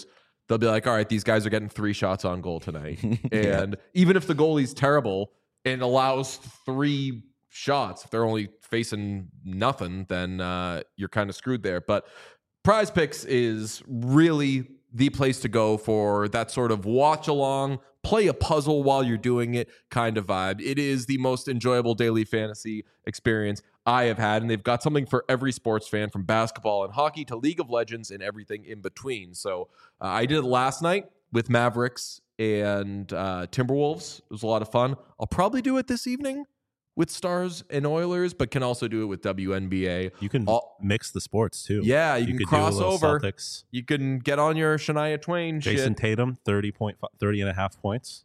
they'll be like, all right, these guys are getting three shots on goal tonight. And even if the goalie's terrible and allows three shots, if they're only facing nothing, then uh, you're kind of screwed there. But Prize Picks is really the place to go for that sort of watch along, play a puzzle while you're doing it kind of vibe. It is the most enjoyable daily fantasy experience I have had, and they've got something for every sports fan, from basketball and hockey to League of Legends and everything in between. So uh, I did it last night with Mavericks and uh, Timberwolves. It was a lot of fun. I'll probably do it this evening with Stars and Oilers, but can also do it with W N B A. You can All, mix the sports too. Yeah, you, you can could cross do a over. Celtics. You can get on your Shania Twain Jason shit. Tatum, thirty, point, thirty and a half points.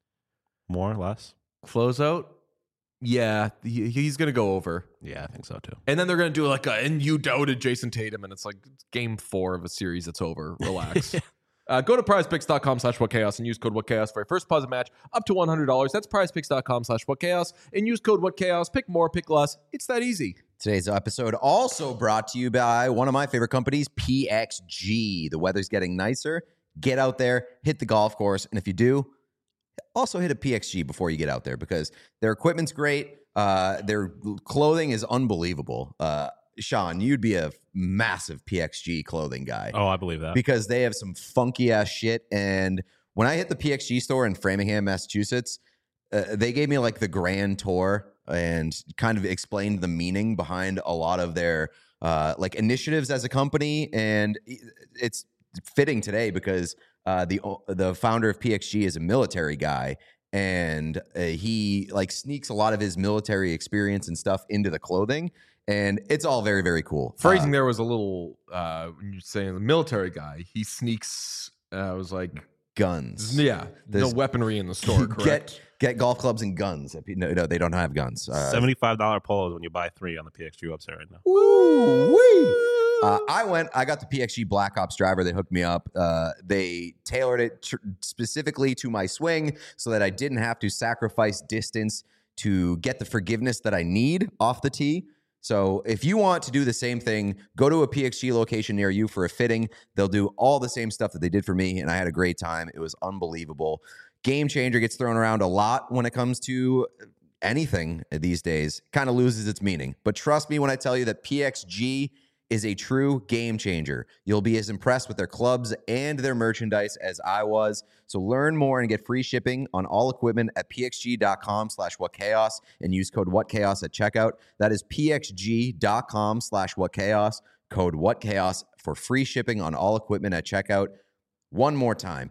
More or less. Closeout. Yeah, he, he's going to go over. Yeah, I think so too. And then they're going to do like a, and you doubted Jason Tatum, and it's like game four of a series that's over. Relax. Uh, go to prizepicks.com slash whatchaos and use code whatchaos for your first deposit match up to one hundred dollars. That's prizepicks.com slash whatchaos and use code whatchaos. Pick more, pick less. It's that easy. Today's episode also brought to you by one of my favorite companies, P X G. The weather's getting nicer. Get out there, hit the golf course, and if you do, also hit a P X G before you get out there, because their equipment's great. Uh, their clothing is unbelievable. Uh, Sean, you'd be a massive P X G clothing guy. Oh, I believe that. Because they have some funky ass shit. And when I hit the P X G store in Framingham, Massachusetts, uh, they gave me like the grand tour and kind of explained the meaning behind a lot of their uh, like initiatives as a company. And it's fitting today because uh, the the founder of P X G is a military guy. And uh, he like sneaks a lot of his military experience and stuff into the clothing. And it's all very, very cool. Phrasing uh, there was a little, uh, when you're saying the military guy, he sneaks, uh, I was like, guns. yeah, There's- no weaponry in the store, correct? Get get golf clubs and guns. No, no, they don't have guns. Uh, seventy-five dollars polos when you buy three on the P X G website right now. Woo-wee. Uh, I went, I got the P X G Black Ops driver. They hooked me up. Uh, they tailored it tr- specifically to my swing so that I didn't have to sacrifice distance to get the forgiveness that I need off the tee. So if you want to do the same thing, go to a P X G location near you for a fitting. They'll do all the same stuff that they did for me, and I had a great time. It was unbelievable. Game changer gets thrown around a lot when it comes to anything these days. Kind of loses its meaning. But trust me when I tell you that P X G is a true game changer. You'll be as impressed with their clubs and their merchandise as I was. So learn more and get free shipping on all equipment at pxg.com slash whatchaos and use code whatchaos at checkout. That is pxg.com slash whatchaos, code whatchaos for free shipping on all equipment at checkout. One more time,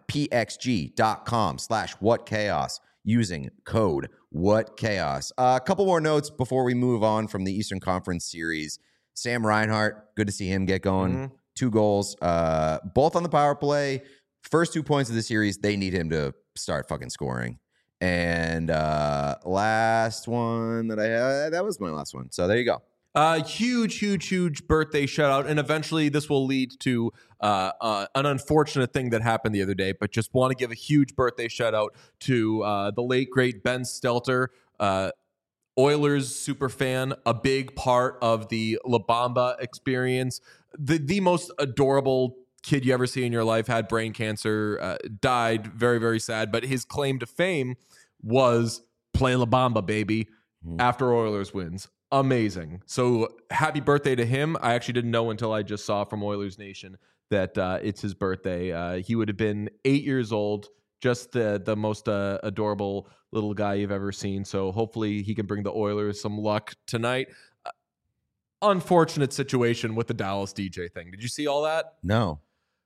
pxg.com slash whatchaos using code whatchaos. Uh, a couple more notes before we move on from the Eastern Conference series. Sam Reinhart, good to see him get going. Mm-hmm. Two goals, uh, both on the power play. First two points of the series, they need him to start fucking scoring. And uh, last one that I had, that was my last one. So there you go. Uh, huge, huge, huge birthday shout out. And eventually this will lead to uh, uh, an unfortunate thing that happened the other day, but just want to give a huge birthday shout out to uh, the late, great Ben Stelter, uh, Oilers super fan, a big part of the La Bamba experience. The the most adorable kid you ever see in your life, had brain cancer, uh, died, very, very sad. But his claim to fame was play La Bamba, baby, mm. after Oilers wins. Amazing. So happy birthday to him. I actually didn't know until I just saw from Oilers Nation that uh, it's his birthday. Uh, he would have been eight years old. Just the the most uh, adorable little guy you've ever seen. So hopefully he can bring the Oilers some luck tonight. Uh, unfortunate situation with the Dallas D J thing. Did you see all that? No.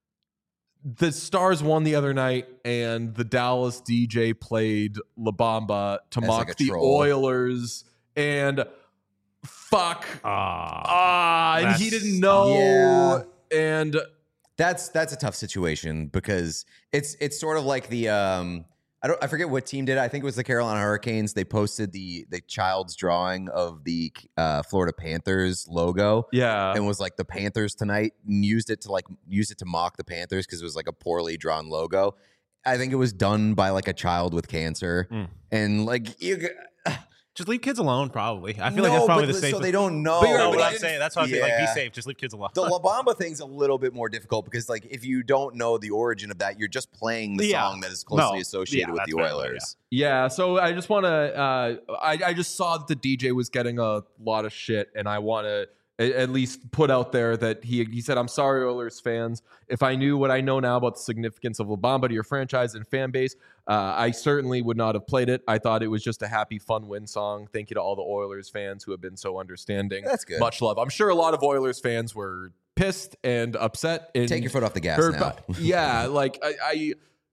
The Stars won the other night, and the Dallas D J played La Bamba to As mock like the troll. Oilers. And fuck. Ah, Ah, and he didn't know. Yeah. And That's that's a tough situation because it's it's sort of like the um I don't I forget what team did it. I think it was the Carolina Hurricanes. They posted the the child's drawing of the uh, Florida Panthers logo. yeah. And was like the Panthers tonight, and used it to like use it to mock the Panthers because it was like a poorly drawn logo. I think it was done by like a child with cancer, Mm. and like you. Just leave kids alone, probably. I feel like No, that's probably but the so safest. they don't know. But you're- No, but what I I'm didn't- saying. That's what I'm saying. Like, be Yeah. safe. Just leave kids alone. The La Bamba thing's a little bit more difficult because, like, if you don't know the origin of that, you're just playing the Yeah. song that is closely No. associated Yeah, with that's the fair, Oilers. Yeah, so I just want to. Uh, I I just saw that the D J was getting a lot of shit, and I want to at least put out there that he he said, "I'm sorry, Oilers fans. If I knew what I know now about the significance of La Bamba to your franchise and fan base, uh, I certainly would not have played it. I thought it was just a happy, fun win song. Thank you to all the Oilers fans who have been so understanding. That's good. Much love. I'm sure a lot of Oilers fans were pissed and upset. And Take your foot off the gas heard now. about- yeah, like I." I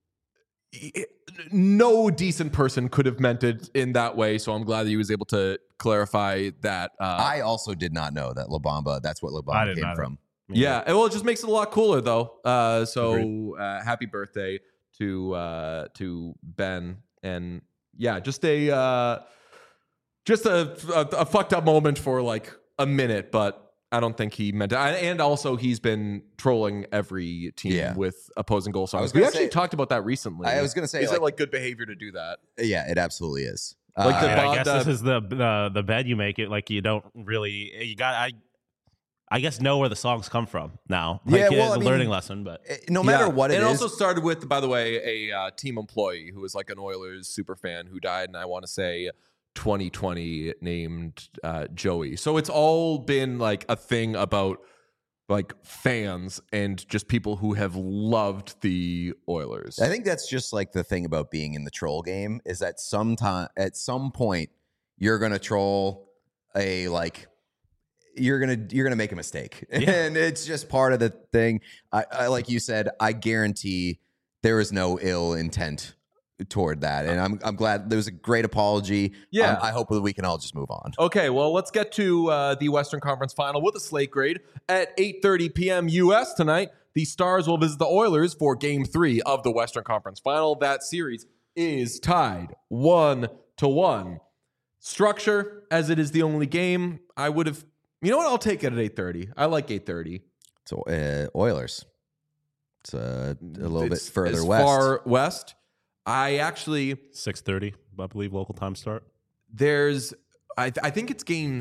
no decent person could have meant it in that way, so I'm glad that he was able to clarify that. Uh, I also did not know that La Bamba, that's what La I Bamba didn't came either. from. yeah, and well, it just makes it a lot cooler, though. Uh, so Agreed. uh, happy birthday to uh, to Ben, and yeah, just a uh, just a, a a fucked up moment for like a minute, but I don't think he meant it. And also, he's been trolling every team Yeah. with opposing goal was songs. We gonna actually say- talked about that recently. I was going to say, Is like, it like good behavior to do that? yeah, it absolutely is. Like Uh, the And I Bod- guess uh, this is the the the bed you make it. Like you don't really you got I. I guess know where the songs come from now. Like, Yeah, well, it's I a mean, learning lesson, but no matter Yeah. what it and is, also started with, by the way, a uh, team employee who was like an Oilers super fan who died, and I want to say twenty twenty named uh, Joey. So it's all been like a thing about like fans and just people who have loved the Oilers. I think that's just like the thing about being in the troll game is that sometime at some point you're gonna troll a like you're gonna you're gonna make a mistake, Yeah. and it's just part of the thing. I, I like you said, I guarantee there is no ill intent toward that, and I'm I'm glad there was a great apology. Yeah. Um, I hope that we can all just move on. Okay, well, let's get to uh, the Western Conference Final with a slate grade at eight thirty p.m. U S tonight. The Stars will visit the Oilers for Game Three of the Western Conference Final. That series is tied one to one. Structure, as it is the only game, I would have. You know what? I'll take it at eight thirty. I like eight thirty. So uh, Oilers, it's uh, a little It's bit further as west. Far west. I actually six thirty, I believe, local time start. there's. I I think it's game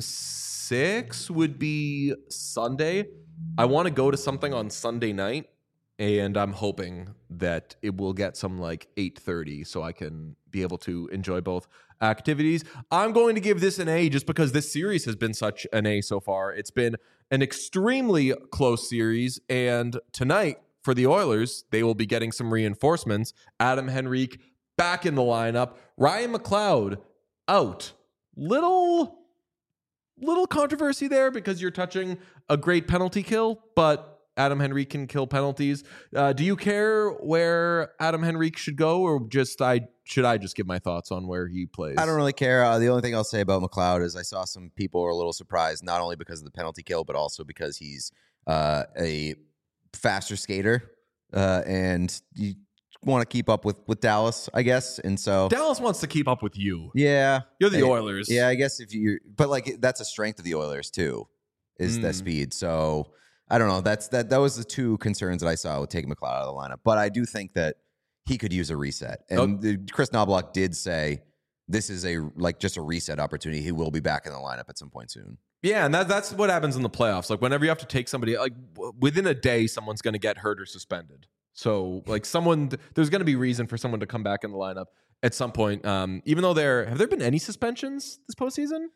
six would be Sunday. I want to go to something on Sunday night, and I'm hoping that it will get some like eight thirty so I can be able to enjoy both activities. I'm going to give this an A just because this series has been such an A so far. It's been an extremely close series, and tonight for the Oilers, they will be getting some reinforcements. Adam Henrique back in the lineup. Ryan McLeod out. Little little controversy there because you're touching a great penalty kill, but Adam Henrique can kill penalties. Uh, do you care where Adam Henrique should go, or just I should I just give my thoughts on where he plays? I don't really care. Uh, the only thing I'll say about McLeod is I saw some people were a little surprised, not only because of the penalty kill, but also because he's uh, a faster skater, uh, and you want to keep up with, with Dallas, I guess. And so, Dallas wants to keep up with you. yeah, You're the Hey, Oilers. yeah, I guess if you, but like that's a strength of the Oilers too, is that Mm. speed. So I don't know. That's that. That was the two concerns that I saw with taking McLeod out of the lineup. But I do think that he could use a reset. And the- Chris Knobloch did say this is a like just a reset opportunity. He will be back in the lineup at some point soon. Yeah, and that, that's what happens in the playoffs. Like whenever you have to take somebody, like w- within a day, someone's going to get hurt or suspended. So like someone, there's going to be reason for someone to come back in the lineup at some point. Um, even though there have there been any suspensions this postseason?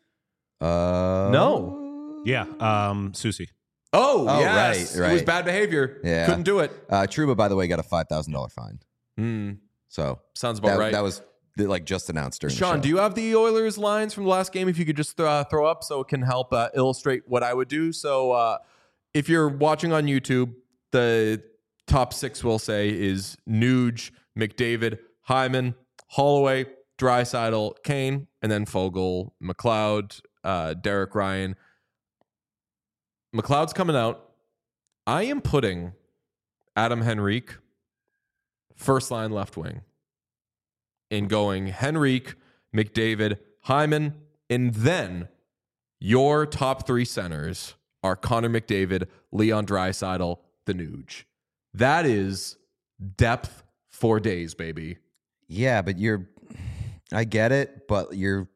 Uh, No. Yeah, um, Susie. Oh, Oh, yes, right, it was right. bad behavior. Yeah. Couldn't do it. Uh, Truba, by the way, got a five thousand dollar fine. Hmm. So Sounds about that, right. that was like just announced during the Sean, show. do you have the Oilers lines from the last game? If you could just th- uh, throw up so it can help uh, illustrate what I would do. So uh, if you're watching on YouTube, the top six we'll say is Nuge, McDavid, Hyman, Holloway, Draisaitl, Kane, and then Fogle, McLeod, uh, Derek Ryan. McLeod's coming out. I am putting Adam Henrique first line left wing and going Henrique, McDavid, Hyman, and then your top three centers are Connor McDavid, Leon Draisaitl, the Nuge. That is depth for days, baby. Yeah, but you're. I get it, but you're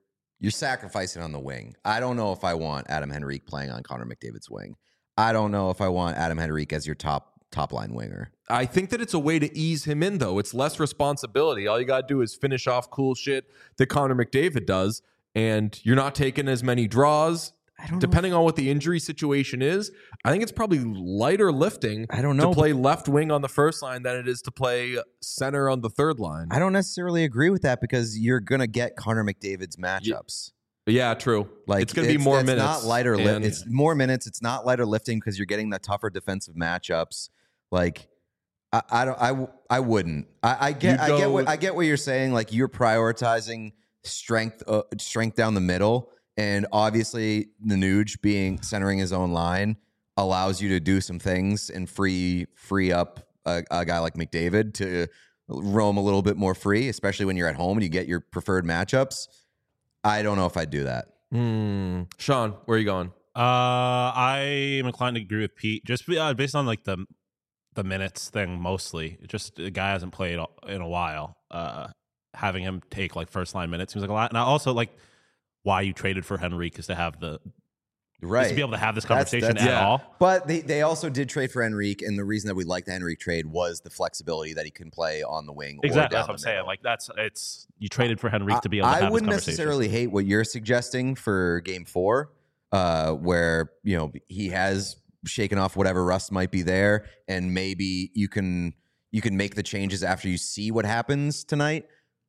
you're sacrificing on the wing. I don't know if I want Adam Henrique playing on Connor McDavid's wing. I don't know if I want Adam Henrique as your top top line winger. I think that it's a way to ease him in, though. It's less responsibility. All you got to do is finish off cool shit that Connor McDavid does, and you're not taking as many draws. I don't Depending know. on what the injury situation is, I think it's probably lighter lifting I don't know. to play left wing on the first line than it is to play center on the third line. I don't necessarily agree with that because you're going to get Connor McDavid's matchups. Yeah, true. Like it's going to be more it's minutes. Not lighter li- and- It's more minutes. It's not lighter lifting because you're getting the tougher defensive matchups. Like I, I don't. I, I wouldn't. I, I get. I You'd get go what with- I get what you're saying. Like you're prioritizing strength, uh, strength down the middle, and obviously the Nuge being centering his own line allows you to do some things and free free up a, a guy like McDavid to roam a little bit more free, especially when you're at home and you get your preferred matchups. I don't know if I'd do that. Hmm. Sean, where are you going? Uh, I am inclined to agree with Pete, just be- uh, based on like the the minutes thing mostly. Just the guy hasn't played in a while. Uh, having him take like first line minutes seems like a lot. And I also like why you traded for Henrique is to have the Right. is to be able to have this That's- conversation that's- at yeah. all. But they, they also did trade for Henrique, and the reason that we liked the Henrique trade was the flexibility that he can play on the wing. Exactly, or down that's what the I'm saying. middle. Like that's it's you traded for Henrique to be able to I have wouldn't this conversation. necessarily hate what you're suggesting for Game Four, uh, where you know he has shaken off whatever rust might be there, and maybe you can you can make the changes after you see what happens tonight.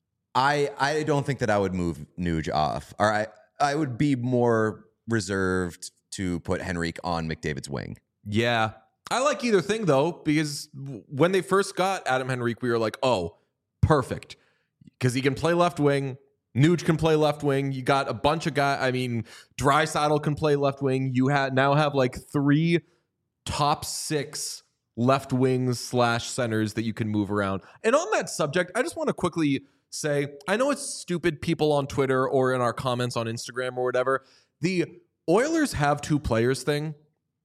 I I don't think that I would move Nuge off. Or I I would be more reserved to put Henrique on McDavid's wing. Yeah. I like either thing, though, because w- when they first got Adam Henrique, we were like, oh, perfect. Because he can play left wing. Nuge can play left wing. You got a bunch of guys. I mean, Draisaitl can play left wing. You ha- now have like three top six left wings slash centers that you can move around. And on that subject, I just want to quickly say, I know it's stupid people on Twitter or in our comments on Instagram or whatever. The Oilers have two players thing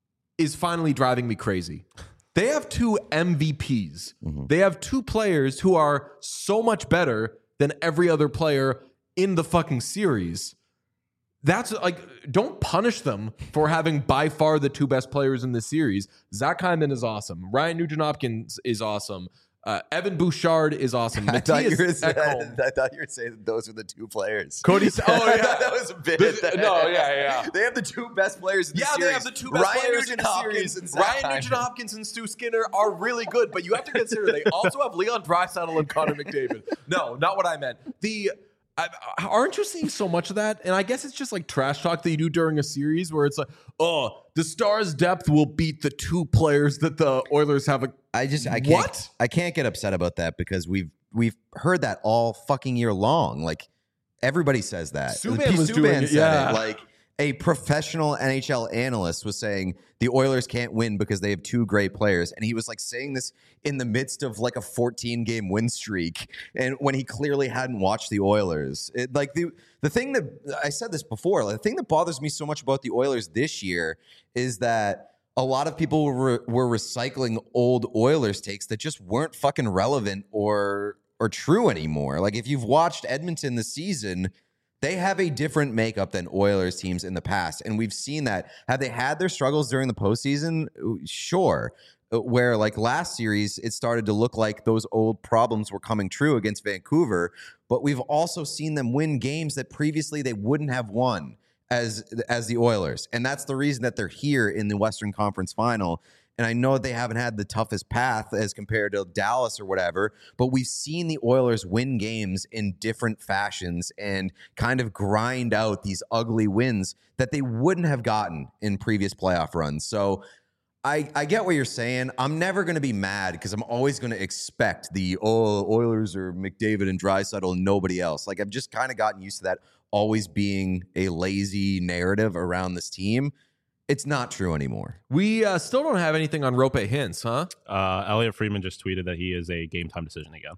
is finally driving me crazy. They have two M V Ps. Mm-hmm. They have two players who are so much better than every other player in the fucking series. That's like, don't punish them for having by far the two best players in the series. Zach Hyman is awesome. Ryan Nugent-Hopkins is awesome. Uh, Evan Bouchard is awesome. I thought, you were, Matthias Ekholm. I thought you were saying that those were the two players. Cody, oh I yeah, thought that was a bit. This- no, yeah, yeah. They have the two best players in the Yeah, series. they have the two best Ryan players in Nugent the Hopkins series. and Zach Ryan Hyman. Nugent Hopkins and Stu Skinner are really good, but you have to consider they also have Leon Draisaitl and Connor McDavid. No, not what I meant. The I, aren't you seeing so much of that? And I guess it's just like trash talk that you do during a series where it's like, oh, the Stars' depth will beat the two players that the Oilers have. A, I just I can't What? I can't get upset about that because we've we've heard that all fucking year long. Like everybody says that. Subban P- was Subban doing it, said yeah. it. Like a professional N H L analyst was saying the Oilers can't win because they have two great players, and he was like saying this in the midst of like a fourteen game win streak, and when he clearly hadn't watched the Oilers. It, like the the thing that I said this before, like, the thing that bothers me so much about the Oilers this year is that a lot of people were, were recycling old Oilers takes that just weren't fucking relevant or or true anymore. Like if you've watched Edmonton this season, they have a different makeup than Oilers teams in the past, and we've seen that. Have they had their struggles during the postseason? Sure. Where like last series, it started to look like those old problems were coming true against Vancouver, but we've also seen them win games that previously they wouldn't have won as as the Oilers, and that's the reason that they're here in the Western Conference Final. And I know they haven't had the toughest path as compared to Dallas or whatever, but we've seen the Oilers win games in different fashions and kind of grind out these ugly wins that they wouldn't have gotten in previous playoff runs. So I, I get what you're saying. I'm never going to be mad because I'm always going to expect the, oh, Oilers or McDavid and Draisaitl and nobody else. Like I've just kind of gotten used to that always being a lazy narrative around this team. It's not true anymore. we uh, still don't have anything on Rope Hintz, huh? Uh, Elliot Friedman just tweeted that he is a game time decision again.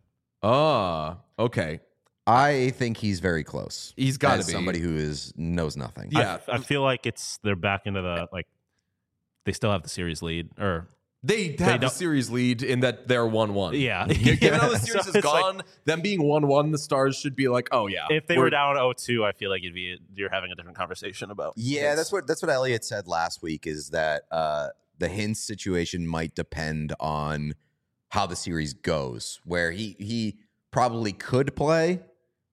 Oh, okay. I think he's very close. He's got to as be somebody who is knows nothing. Yeah. I, I feel like it's they're back into the like they still have the series lead or They have They the don't- series lead in that they're one one. Yeah. Given how the Yeah. series So is it's like- gone, them being one one, the Stars should be like, oh, yeah. If they we're- were down oh two, I feel like it'd be you're having a different conversation about. Yeah, that's what that's what Elliot said last week. Is that uh, the Hintz situation might depend on how the series goes. Where he he probably could play,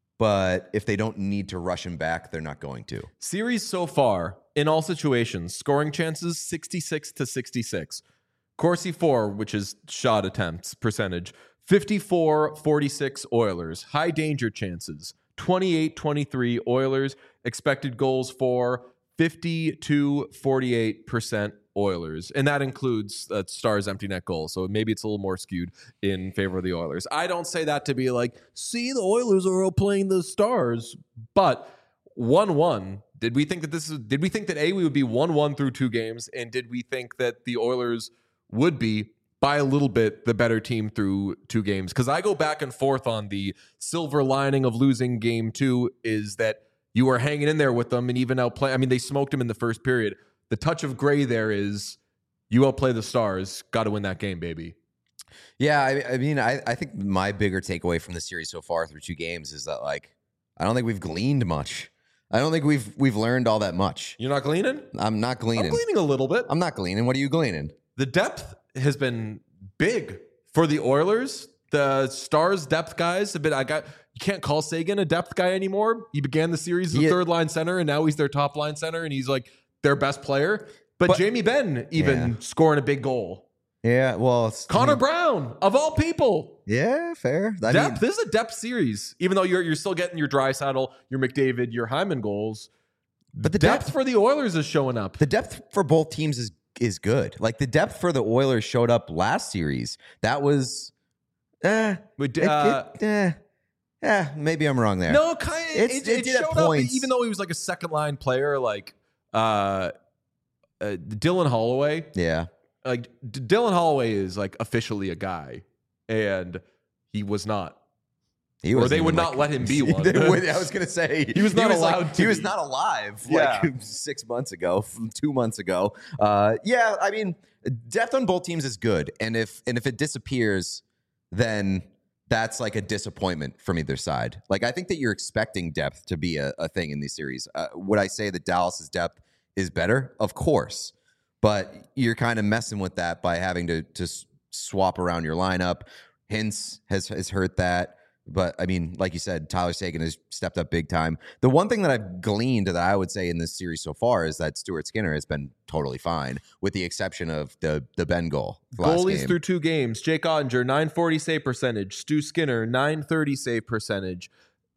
but if they don't need to rush him back, they're not going to. Series so far, in all situations, scoring chances sixty-six to sixty-six. Corsi four, which is shot attempts percentage, fifty-four forty-six Oilers. High danger chances, twenty-eight twenty-three Oilers. Expected goals for fifty-two forty-eight percent Oilers. And that includes uh, Stars empty net goals. So maybe it's a little more skewed in favor of the Oilers. I don't say that to be like, see, the Oilers are outplaying the Stars. But one one, did we think that this is, did we think that A, we would be one one through two games? And did we think that the Oilers would be by a little bit the better team through two games? Because I go back and forth on the silver lining of losing game two is that you were hanging in there with them and even outplay. I mean, they smoked them in the first period. The touch of gray there is you outplay the Stars. Got to win that game, baby. Yeah, I, I mean, I, I think my bigger takeaway from the series so far through two games is that like I don't think we've gleaned much. I don't think we've we've learned all that much. You're not gleaning? I'm not gleaning. I'm gleaning a little bit. I'm not gleaning. What are you gleaning? The depth has been big for the Oilers. The Stars depth guys have been. I got. You can't call Sagan a depth guy anymore. He began the series as a Yeah. third line center, and now he's their top line center, and he's like their best player. But, But- Jamie Benn even Yeah. scoring a big goal. Yeah, well, it's, Connor I mean, Brown of all people. Yeah, fair. I Depth. mean, This is a depth series, even though you're you're still getting your Draisaitl, your McDavid, your Hyman goals. but the Depth depth, for the Oilers is showing up. the depth for both teams is is good. Like the depth for the Oilers showed up last series. That was, eh, We d- it- uh, it- eh, yeah, maybe I'm wrong there. No, kind of. It's- It, it it did at showed up, points. even though he was like a second line player, like uh, uh, Dylan Holloway. Yeah, Like D- Dylan Holloway is like officially a guy, and he was not. he Or wasn't they even, would like- not let him be one. They would- I was gonna say He was not like- allowed to He was be. not alive. Yeah. Like six months ago, from two months ago. Uh, yeah, I mean, depth on both teams is good, and if and if it disappears, then that's like a disappointment from either side. Like I think that you're expecting depth to be a, a thing in these series. Uh, would I say that Dallas's depth is better? Of course, but you're kind of messing with that by having to to s- swap around your lineup. Hintz has has hurt that. But I mean, like you said, Tyler Seguin has stepped up big time. The one thing that I've gleaned that I would say in this series so far is that Stuart Skinner has been totally fine, with the exception of the the Ben goal. last Goalies game. through two games. Jake Ottinger, nine forty save percentage. Stu Skinner, nine thirty save percentage.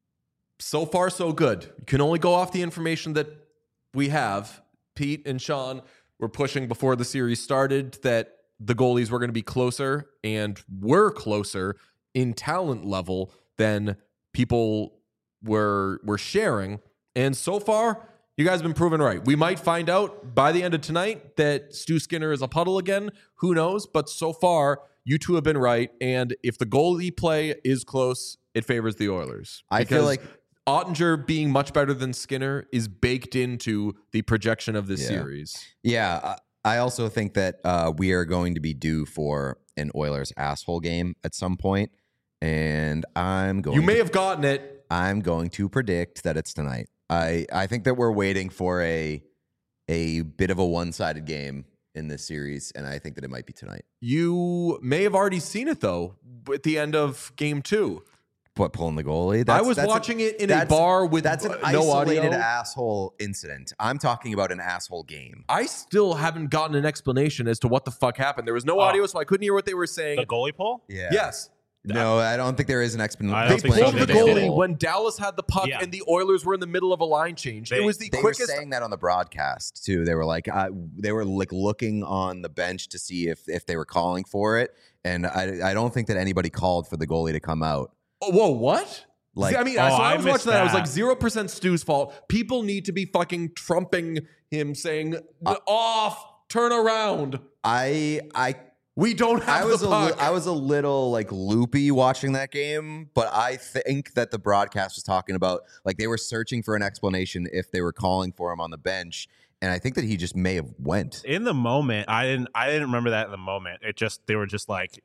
So far, so good. You can only go off the information that we have. Pete and Sean were pushing before the series started that the goalies were going to be closer and were closer in talent level than people were were sharing. And so far, you guys have been proven right. We might find out by the end of tonight that Stu Skinner is a puddle again. Who knows? But so far, you two have been right. And if the goalie play is close, it favors the Oilers. I feel Because like- Ottinger being much better than Skinner is baked into the projection of this Yeah. series. Yeah, I I also think that uh, we are going to be due for an Oilers asshole game at some point, and I'm going. You may to, have gotten it. I'm going to predict that it's tonight. I I think that we're waiting for a a bit of a one sided game in this series, and I think that it might be tonight. You may have already seen it, though, at the end of game two. What, pulling the goalie? I That's- was that's a- watching it in a that's- bar with That's an uh, no isolated audio. asshole incident. I'm talking about an asshole game. I still haven't gotten an explanation as to what the fuck happened. There was no Oh. audio, so I couldn't hear what they were saying. The goalie pull? Yeah. Yes. No, I don't think there is an explan- I They don't think pulled so. the They did. goalie when Dallas had the puck Yeah. and the Oilers were in the middle of a line change. They- it was the They quickest. were saying that on the broadcast too. They were like, uh, they were like looking on the bench to see if if they were calling for it, and I I don't think that anybody called for the goalie to come out. Oh, whoa, what? Like- See, I mean, Oh, so I I was missed watching that. I was like, that. zero percent Stu's fault. People need to be fucking trumping him, saying, off, turn around. I I We don't have I was the a puck. li- I was a little like loopy watching that game, but I think that the broadcast was talking about like they were searching for an explanation if they were calling for him on the bench, and I think that he just may have went. In the moment, I didn't I didn't remember that in the moment. It just they were just like,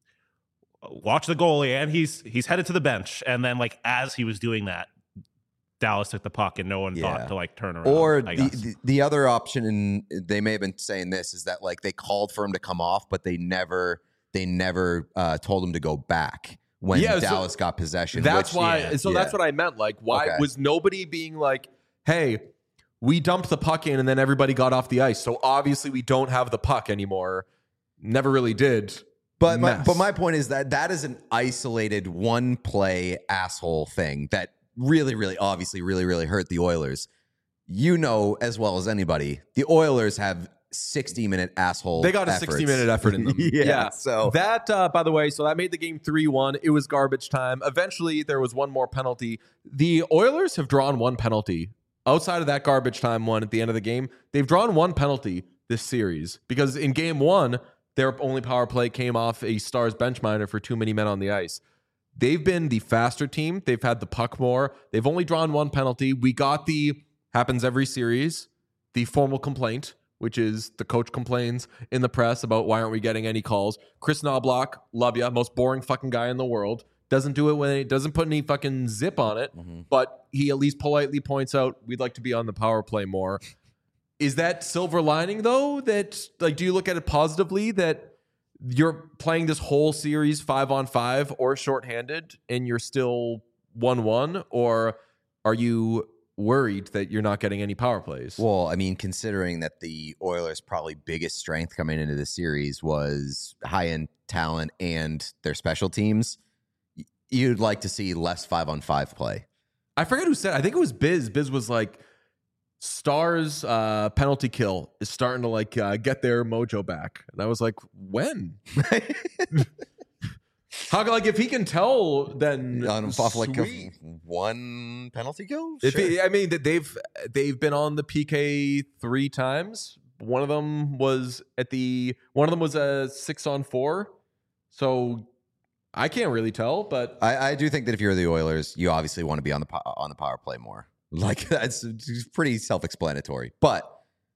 watch the goalie, and he's he's headed to the bench. And then like as he was doing that, Dallas took the puck, and no one Yeah. thought to like turn around. Or I the, guess. the the other option, and they may have been saying this, is that like they called for him to come off, but they never they never uh, told him to go back when Yeah, so Dallas got possession. That's which- why. yeah, so yeah. that's what I meant. Like, why Okay. was nobody being like, "Hey, we dumped the puck in, and then everybody got off the ice, so obviously we don't have the puck anymore." Never really did. But my, Mess. but my point is that that is an isolated one play asshole thing that really, really, obviously, really, really hurt the Oilers. You know as well as anybody, the Oilers have sixty minute asshole. They got a efforts. sixty minute effort in them. yeah, So that, uh, by the way, so that made the game three one. It was garbage time. Eventually, there was one more penalty. The Oilers have drawn one penalty outside of that garbage time one at the end of the game. They've drawn one penalty this series because in game one, their only power play came off a Stars bench minor for too many men on the ice. They've been the faster team. They've had the puck more. They've only drawn one penalty. We got the, happens every series, the formal complaint, which is the coach complains in the press about why aren't we getting any calls. Chris Knobloch, love ya, most boring fucking guy in the world. Doesn't do it when it doesn't put any fucking zip on it, Mm-hmm. but he at least politely points out we'd like to be on the power play more. Is that silver lining though? That like, do you look at it positively that you're playing this whole series five on five or shorthanded and you're still one one, or are you worried that you're not getting any power plays? Well, I mean, considering that the Oilers' probably biggest strength coming into the series was high-end talent and their special teams, y- you'd like to see less five-on-five play. I forget who said it. I think it was Biz. Biz was like, Stars uh, penalty kill is starting to like uh, get their mojo back. And I was like, when? How like if he can tell, then On off like a sweet. one penalty kill? If Sure. he, I mean that they've they've been on the P K three times. One of them was at the one of them was a six on four. So I can't really tell, but I, I do think that if you're the Oilers, you obviously want to be on the po- on the power play more. Like that's it's pretty self-explanatory. But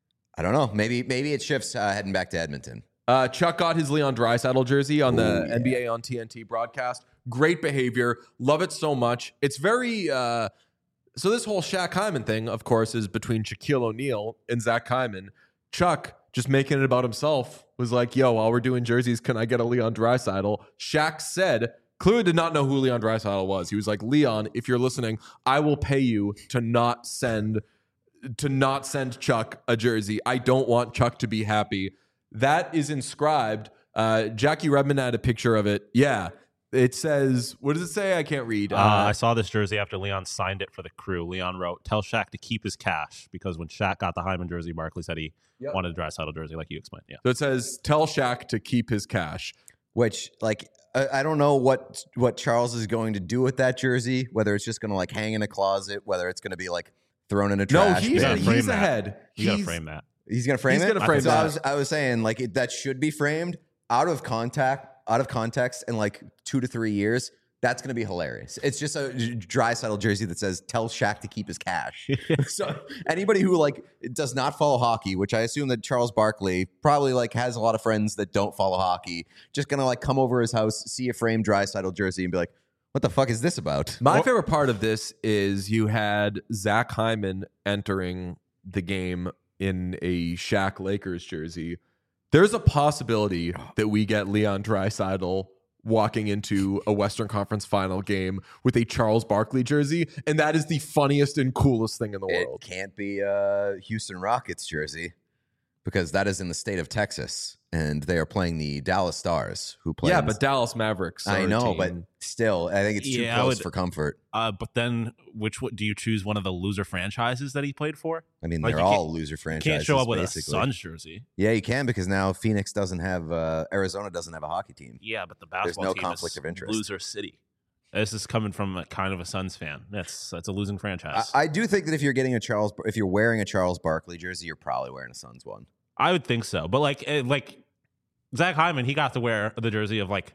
I don't know. Maybe maybe it shifts uh, heading back to Edmonton. Uh, Chuck got his Leon Draisaitl jersey on the Ooh, yeah. N B A on T N T broadcast. Great behavior. Love it so much. It's very... Uh, so this whole Shaq Hyman thing, of course, is between Shaquille O'Neal and Zach Hyman. Chuck, just making it about himself, was like, yo, while we're doing jerseys, can I get a Leon Draisaitl? Shaq said... Clearly did not know who Leon Draisaitl was. He was like, Leon, if you're listening, I will pay you to not send to not send Chuck a jersey. I don't want Chuck to be happy. That is inscribed. Uh, Jackie Redmond had a picture of it. Yeah. It says, what does it say? I can't read. Uh, I saw this jersey after Leon signed it for the Crew. Leon wrote, "Tell Shaq to keep his cash," because when Shaq got the Hyman jersey, Barkley said he Yep. wanted a Draisaitl jersey, like you explained. Yeah. So it says, tell Shaq to keep his cash. Which, like, I, I don't know what what Charles is going to do with that jersey. Whether it's just going to like hang in a closet, whether it's going to be like thrown in a No, trash he's, gotta bin. frame he's that. ahead. You got to He's- frame that. He's gonna frame He's it. gonna frame so I that. was, I was saying like it, that should be framed out of contact, out of context, in like two to three years. That's gonna be hilarious. It's just a Draisaitl jersey that says "Tell Shaq to keep his cash." So anybody who like does not follow hockey, which I assume that Charles Barkley probably like has a lot of friends that don't follow hockey, just gonna like come over his house, see a framed Draisaitl jersey, and be like, "What the fuck is this about?" My Well- favorite part of this is you had Zach Hyman entering the game in a Shaq Lakers jersey. There's a possibility that we get Leon Draisaitl walking into a Western Conference final game with a Charles Barkley jersey, and that is the funniest and coolest thing in the It world. can't be a Houston Rockets jersey because that is in the state of Texas, and they are playing the Dallas Stars, who play. Yeah, in- but Dallas Mavericks. I are a know, team. but still, I think it's too Yeah, I close would- for comfort. Uh, but then, which one, do you choose one of the loser franchises that he played for? I mean, Like, they're you can't- all loser You franchises. can't show up with basically. a Suns jersey. Yeah, you can because now Phoenix doesn't have uh, Arizona doesn't have a hockey team. Yeah, but the There's basketball no team conflict is of interest. loser city. This is coming from a, kind of a Suns fan. That's that's a losing I, franchise. I do think that if you're getting a Charles, if you're wearing a Charles Barkley jersey, you're probably wearing a Suns one. I would think so. But like, eh, like Zach Hyman, he got to wear the jersey of like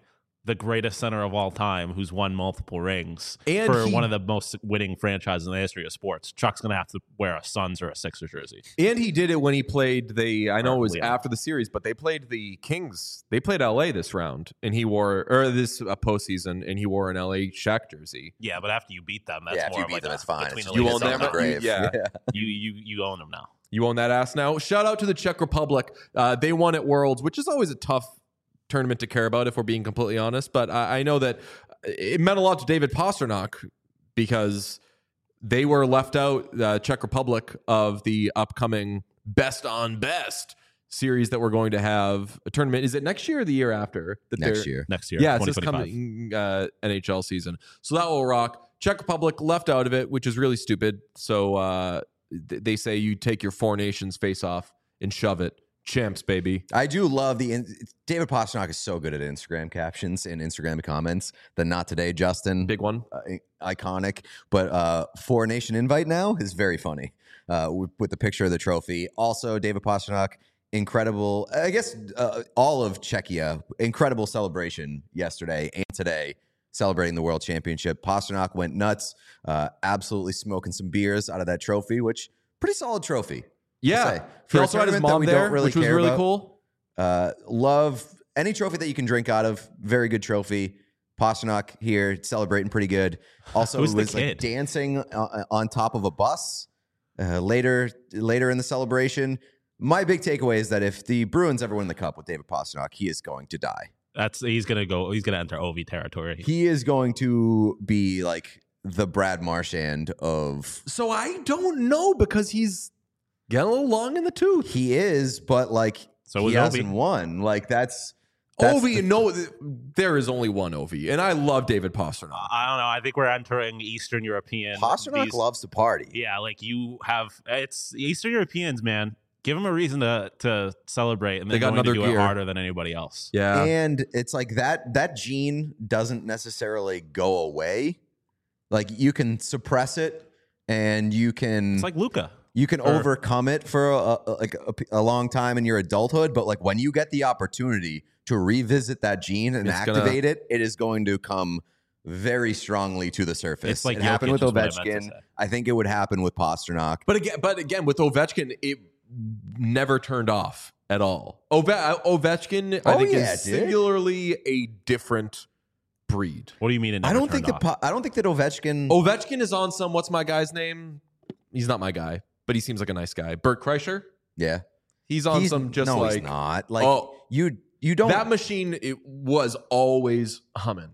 the greatest center of all time who's won multiple rings And for he- one of the most winning franchises in the history of sports. Chuck's going to have to wear a Suns or a Sixers jersey. And he did it when he played the, I know it was Leon. after the series, but they played the Kings. They played L A this round, and he wore, or this uh, postseason, and he wore an L A Shaq jersey. Yeah, but after you beat them, that's Yeah, if more you of beat like them, a it's fine. between It's the just- You it's own on them? the You- grave. yeah. You, you, you own them now. You own that ass now. Shout out to the Czech Republic. Uh, they won at Worlds, which is always a tough tournament to care about if we're being completely honest. But I, I know that it meant a lot to David Pasternak because they were left out, uh, Czech Republic, of the upcoming Best on Best series that we're going to have a tournament. Is it next year or the year after? That Next they're- year. Next year, Yeah, it's this twenty twenty-five. coming uh, N H L season. So that will rock. Czech Republic left out of it, which is really stupid. So uh, th- they say you take your four nations face off and shove it. Champs, baby. I do love the in- David Pasternak is so good at Instagram captions and Instagram comments. The not today, Justin, Big one. uh, iconic. But uh, Four Nation invite now is very funny uh, with, with the picture of the trophy. Also, David Pasternak, incredible. I guess uh, all of Czechia, incredible celebration yesterday and today, celebrating the World Championship. Pasternak went nuts, uh, absolutely smoking some beers out of that trophy, which pretty solid trophy. Yeah. say. He For a also had his tournament that mom we don't there, really which was care really about. cool. Uh, love any trophy that you can drink out of. Very good trophy. Pasternak here celebrating pretty good. Also, Who's the was like kid? dancing uh, on top of a bus uh, later later in the celebration. My big takeaway is that if the Bruins ever win the cup with David Pasternak, he is going to die. That's he's gonna go. He's gonna enter O V territory. He is going to be like the Brad Marchand of. So I don't know because he's getting a little long in the tooth. He is, but like So he was hasn't Ovi. won. Like that's. that's Ovi, the- no, th- there is only one Ovi, and I love David Pasternak. I don't know. I think we're entering Eastern European. Pasternak these- loves to party. Yeah, like you have. It's Eastern Europeans, man. Give them a reason to to celebrate, and They they're got going to another do gear. it harder than anybody else. Yeah. And it's like that that gene doesn't necessarily go away. Like you can suppress it and you can It's like Luca. you can or- overcome it for a, a, like a, a long time in your adulthood, but like when you get the opportunity to revisit that gene and It's gonna- activate it, it is going to come very strongly to the surface. It's like it happened Jokic with is what I meant to Ovechkin. say. I think it would happen with Pasternak. But again, but again, with Ovechkin, it never turned off at all. Ove- Ovechkin, I Oh, think, yeah, is it did. singularly a different breed. What do you mean? It I never don't think turned that off? Pa- I don't think that Ovechkin. Ovechkin is on some. What's my guy's name? He's not my guy, but he seems like a nice guy. Bert Kreischer. yeah, He's on He's- some just no, like he's not. Like oh, you, you don't that machine. It was always humming.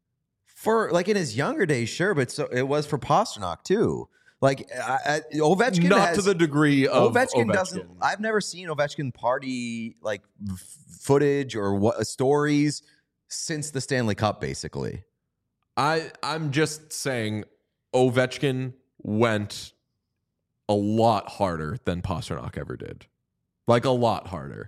For like in his younger days, sure, but so it was for Pasternak too. Like I, I, Ovechkin, Not has, to the degree of Ovechkin, Ovechkin. doesn't. I've never seen Ovechkin party like f- footage or what stories since the Stanley Cup, basically. I I'm just saying, Ovechkin went a lot harder than Pasternak ever did, like a lot harder.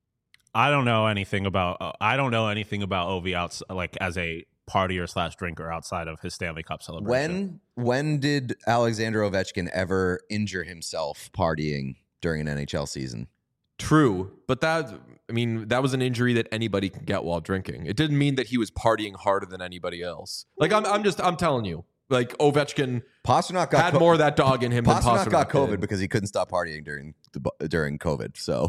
I don't know anything about. Uh, I don't know anything about Ovi outs like as a partier slash drinker outside of his Stanley Cup celebration. When when did Alexander Ovechkin ever injure himself partying during an N H L season? True, but that I mean that was an injury that anybody can get while drinking. It didn't mean that he was partying harder than anybody else. Like I'm I'm just I'm telling you, like Ovechkin Pasternak got had co- more of that dog in him than Pasternak Pasternak got COVID did. because he couldn't stop partying during the, bu- during COVID. So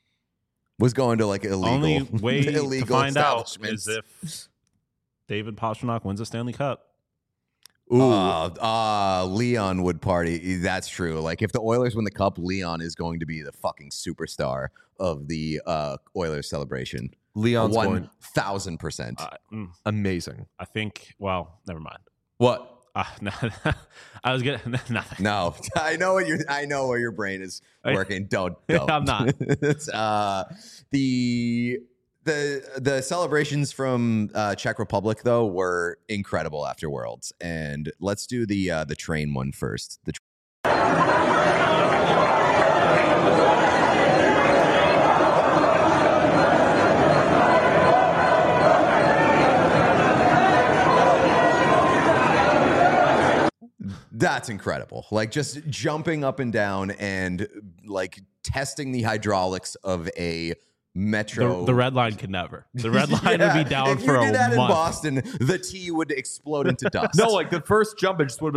was going to like illegal Only way to illegal find out establishments. is if David Pasternak wins a Stanley Cup. Ooh, Uh, uh, Leon would party. That's true. Like if the Oilers win the cup, Leon is going to be the fucking superstar of the uh, Oilers celebration. Leon's going One thousand percent. Uh, mm, amazing. I think. Well, never mind. What? Uh, no, I was gonna nothing. No, I know what your I know where your brain is I- working. Don't. don't. I'm not. It's, uh, the the the celebrations from uh, Czech Republic though were incredible after Worlds, and let's do the uh, the train one first. The tr- That's incredible. Like just jumping up and down and like testing the hydraulics of a Metro. The, the red line can never. The red line Yeah, would be down if for you a did that month. in Boston, the T would explode into dust. No, like the first jump, it just would have been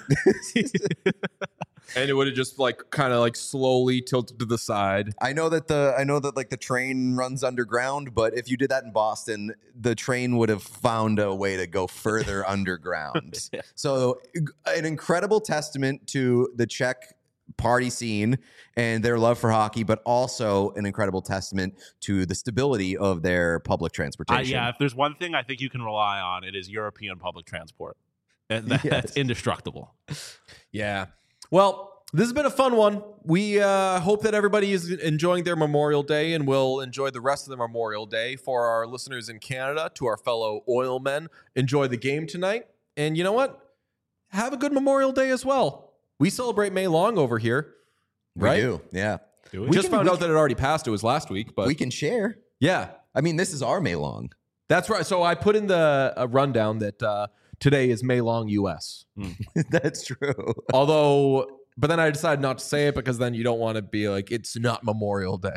like, and it would have just like kind of like slowly tilted to the side. I know that the I know that like the train runs underground, but if you did that in Boston, the train would have found a way to go further underground. Yeah. So an incredible testament to the Czech party scene and their love for hockey, but also an incredible testament to the stability of their public Uh, transportation. yeah, if there's one thing I think you can rely on, it is European public transport. And that, Yes. That's indestructible. Yeah. Well, this has been a fun one. We uh, hope that everybody is enjoying their Memorial Day and will enjoy the rest of the Memorial Day. For our listeners in Canada, to our fellow oil men, enjoy the game tonight. And you know what? Have a good Memorial Day as well. We celebrate May long over here. we right? do. Yeah. Do We we? just can- found we out that it already passed. It was last week, but we can share. yeah, I mean, this is our May long. that's right. So I put in the uh, rundown that uh, today is May long U S. That's true. Although, but then I decided not to say it because then you don't want to be like, it's not Memorial Day.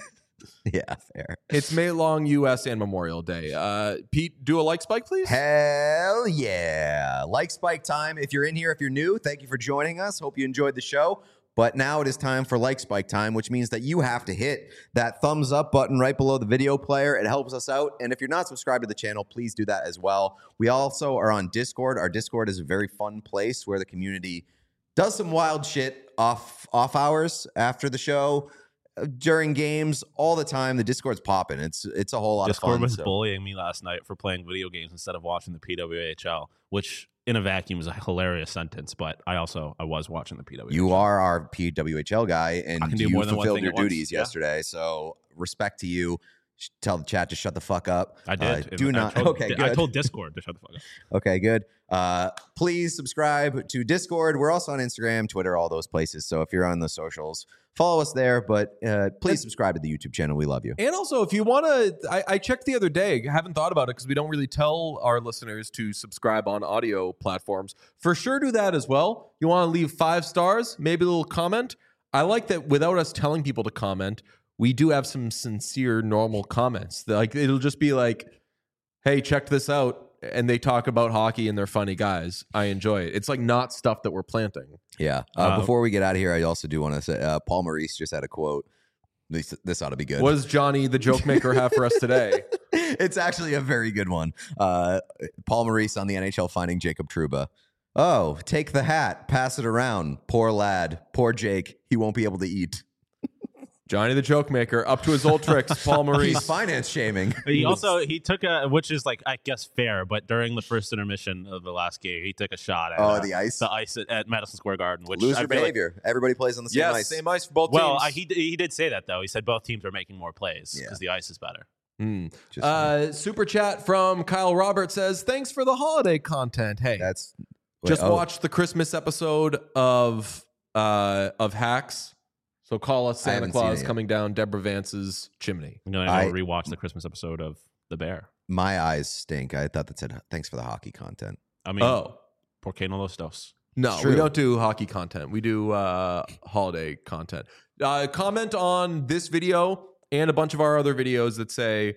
Yeah, fair. It's May long U S and Memorial Day. Uh, Pete, do a like spike, please. Hell yeah. Like Spike time. If you're in here, if you're new, thank you for joining us. Hope you enjoyed the show. But now it is time for Like Spike time, which means that you have to hit that thumbs up button right below the video player. It helps us out. And if you're not subscribed to the channel, please do that as well. We also are on Discord. Our Discord is a very fun place where the community does some wild shit off off hours after the show, uh, during games, all the time. The Discord's popping. It's it's a whole lot Discord of fun. was so- bullying me last night for playing video games instead of watching the P W H L, which in a vacuum is a hilarious sentence. But I also I was watching the P W H L. You are our P W H L guy, and I can do you more than one fulfilled thing your at once, duties yeah. yesterday. So respect to you. Sh- Tell the chat to shut the fuck up. I did. Uh, do I not. told- okay, I good. told Discord to shut the fuck up. Okay, good. Uh, please subscribe to Discord. We're also on Instagram, Twitter, all those places. So if you're on the socials, follow us there. But uh, please subscribe to the YouTube channel. We love you. And also, if you want to, I, I checked the other day. Haven't thought about it because we don't really tell our listeners to subscribe on audio platforms. For sure, do that as well. You want to leave five stars, maybe a little comment. I like that without us telling people to comment, we do have some sincere, normal comments. Like it'll just be like, "Hey, check this out," and they talk about hockey and they're funny guys. I enjoy it. It's like not stuff that we're planting. Yeah. Uh, Uh, before we get out of here, I also do want to say uh, Paul Maurice just had a quote. This, this ought to be good. What does Johnny, the joke maker, have for us today? It's actually a very good one. Uh, Paul Maurice on the N H L finding Jacob Trouba. Oh, take the hat, pass it around. Poor lad, poor Jake. He won't be able to eat. Johnny, the joke maker, up to his old tricks. Paul He's Maurice. finance shaming. He also he took a, which is like I guess fair, but during the first intermission of the last game, he took a shot at Oh, uh, the ice? the ice at, at Madison Square Garden, which I Loser feel like- behavior. Everybody plays on the same Yes, ice. same ice for both well, teams. I, he he did say that though. He said both teams are making more plays Yeah. because the ice is better. Hmm. Just- Uh, super chat from Kyle Roberts says, "Thanks for the holiday content. Hey, That's wait, just oh, watched the Christmas episode of uh, of Hacks. So call us I Santa haven't seen Claus it yet. coming down Deborah Vance's chimney." You know, I, I- I rewatched the Christmas episode of The Bear. My eyes stink. I thought that said thanks for the hockey content. I mean, Oh por qué no los dos? no, It's we true. don't do hockey content. We do uh, holiday content. Uh, comment on this video and a bunch of our other videos that say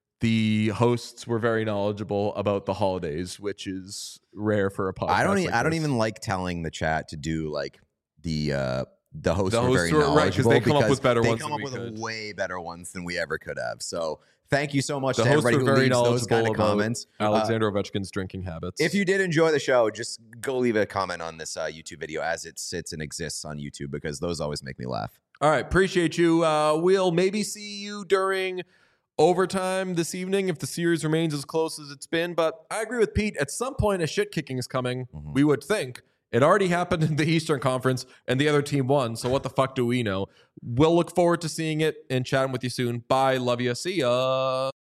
the hosts were very knowledgeable about the holidays, which is rare for a podcast. I don't. E- like I don't this. even like telling the chat to do like the uh, the hosts The were hosts very were- right, 'cause knowledgeable they come up because with better they ones come than up we with could. way better ones than we ever could have. So thank you so much The to hosts everybody were who very leaves those kind knowledgeable of about comments. Uh, Alexander Ovechkin's drinking habits. if you did enjoy the show, just go leave a comment on this uh, YouTube video as it sits and exists on YouTube because those always make me laugh. All right, appreciate you. Uh, we'll maybe see you during overtime this evening if the series remains as close as it's been. But I agree with Pete. At some point, a shit kicking is coming. Mhm. We would think. It already happened in the Eastern Conference, and the other team won. So what the fuck do we know? We'll look forward to seeing it and chatting with you soon. Bye. Love you. See ya.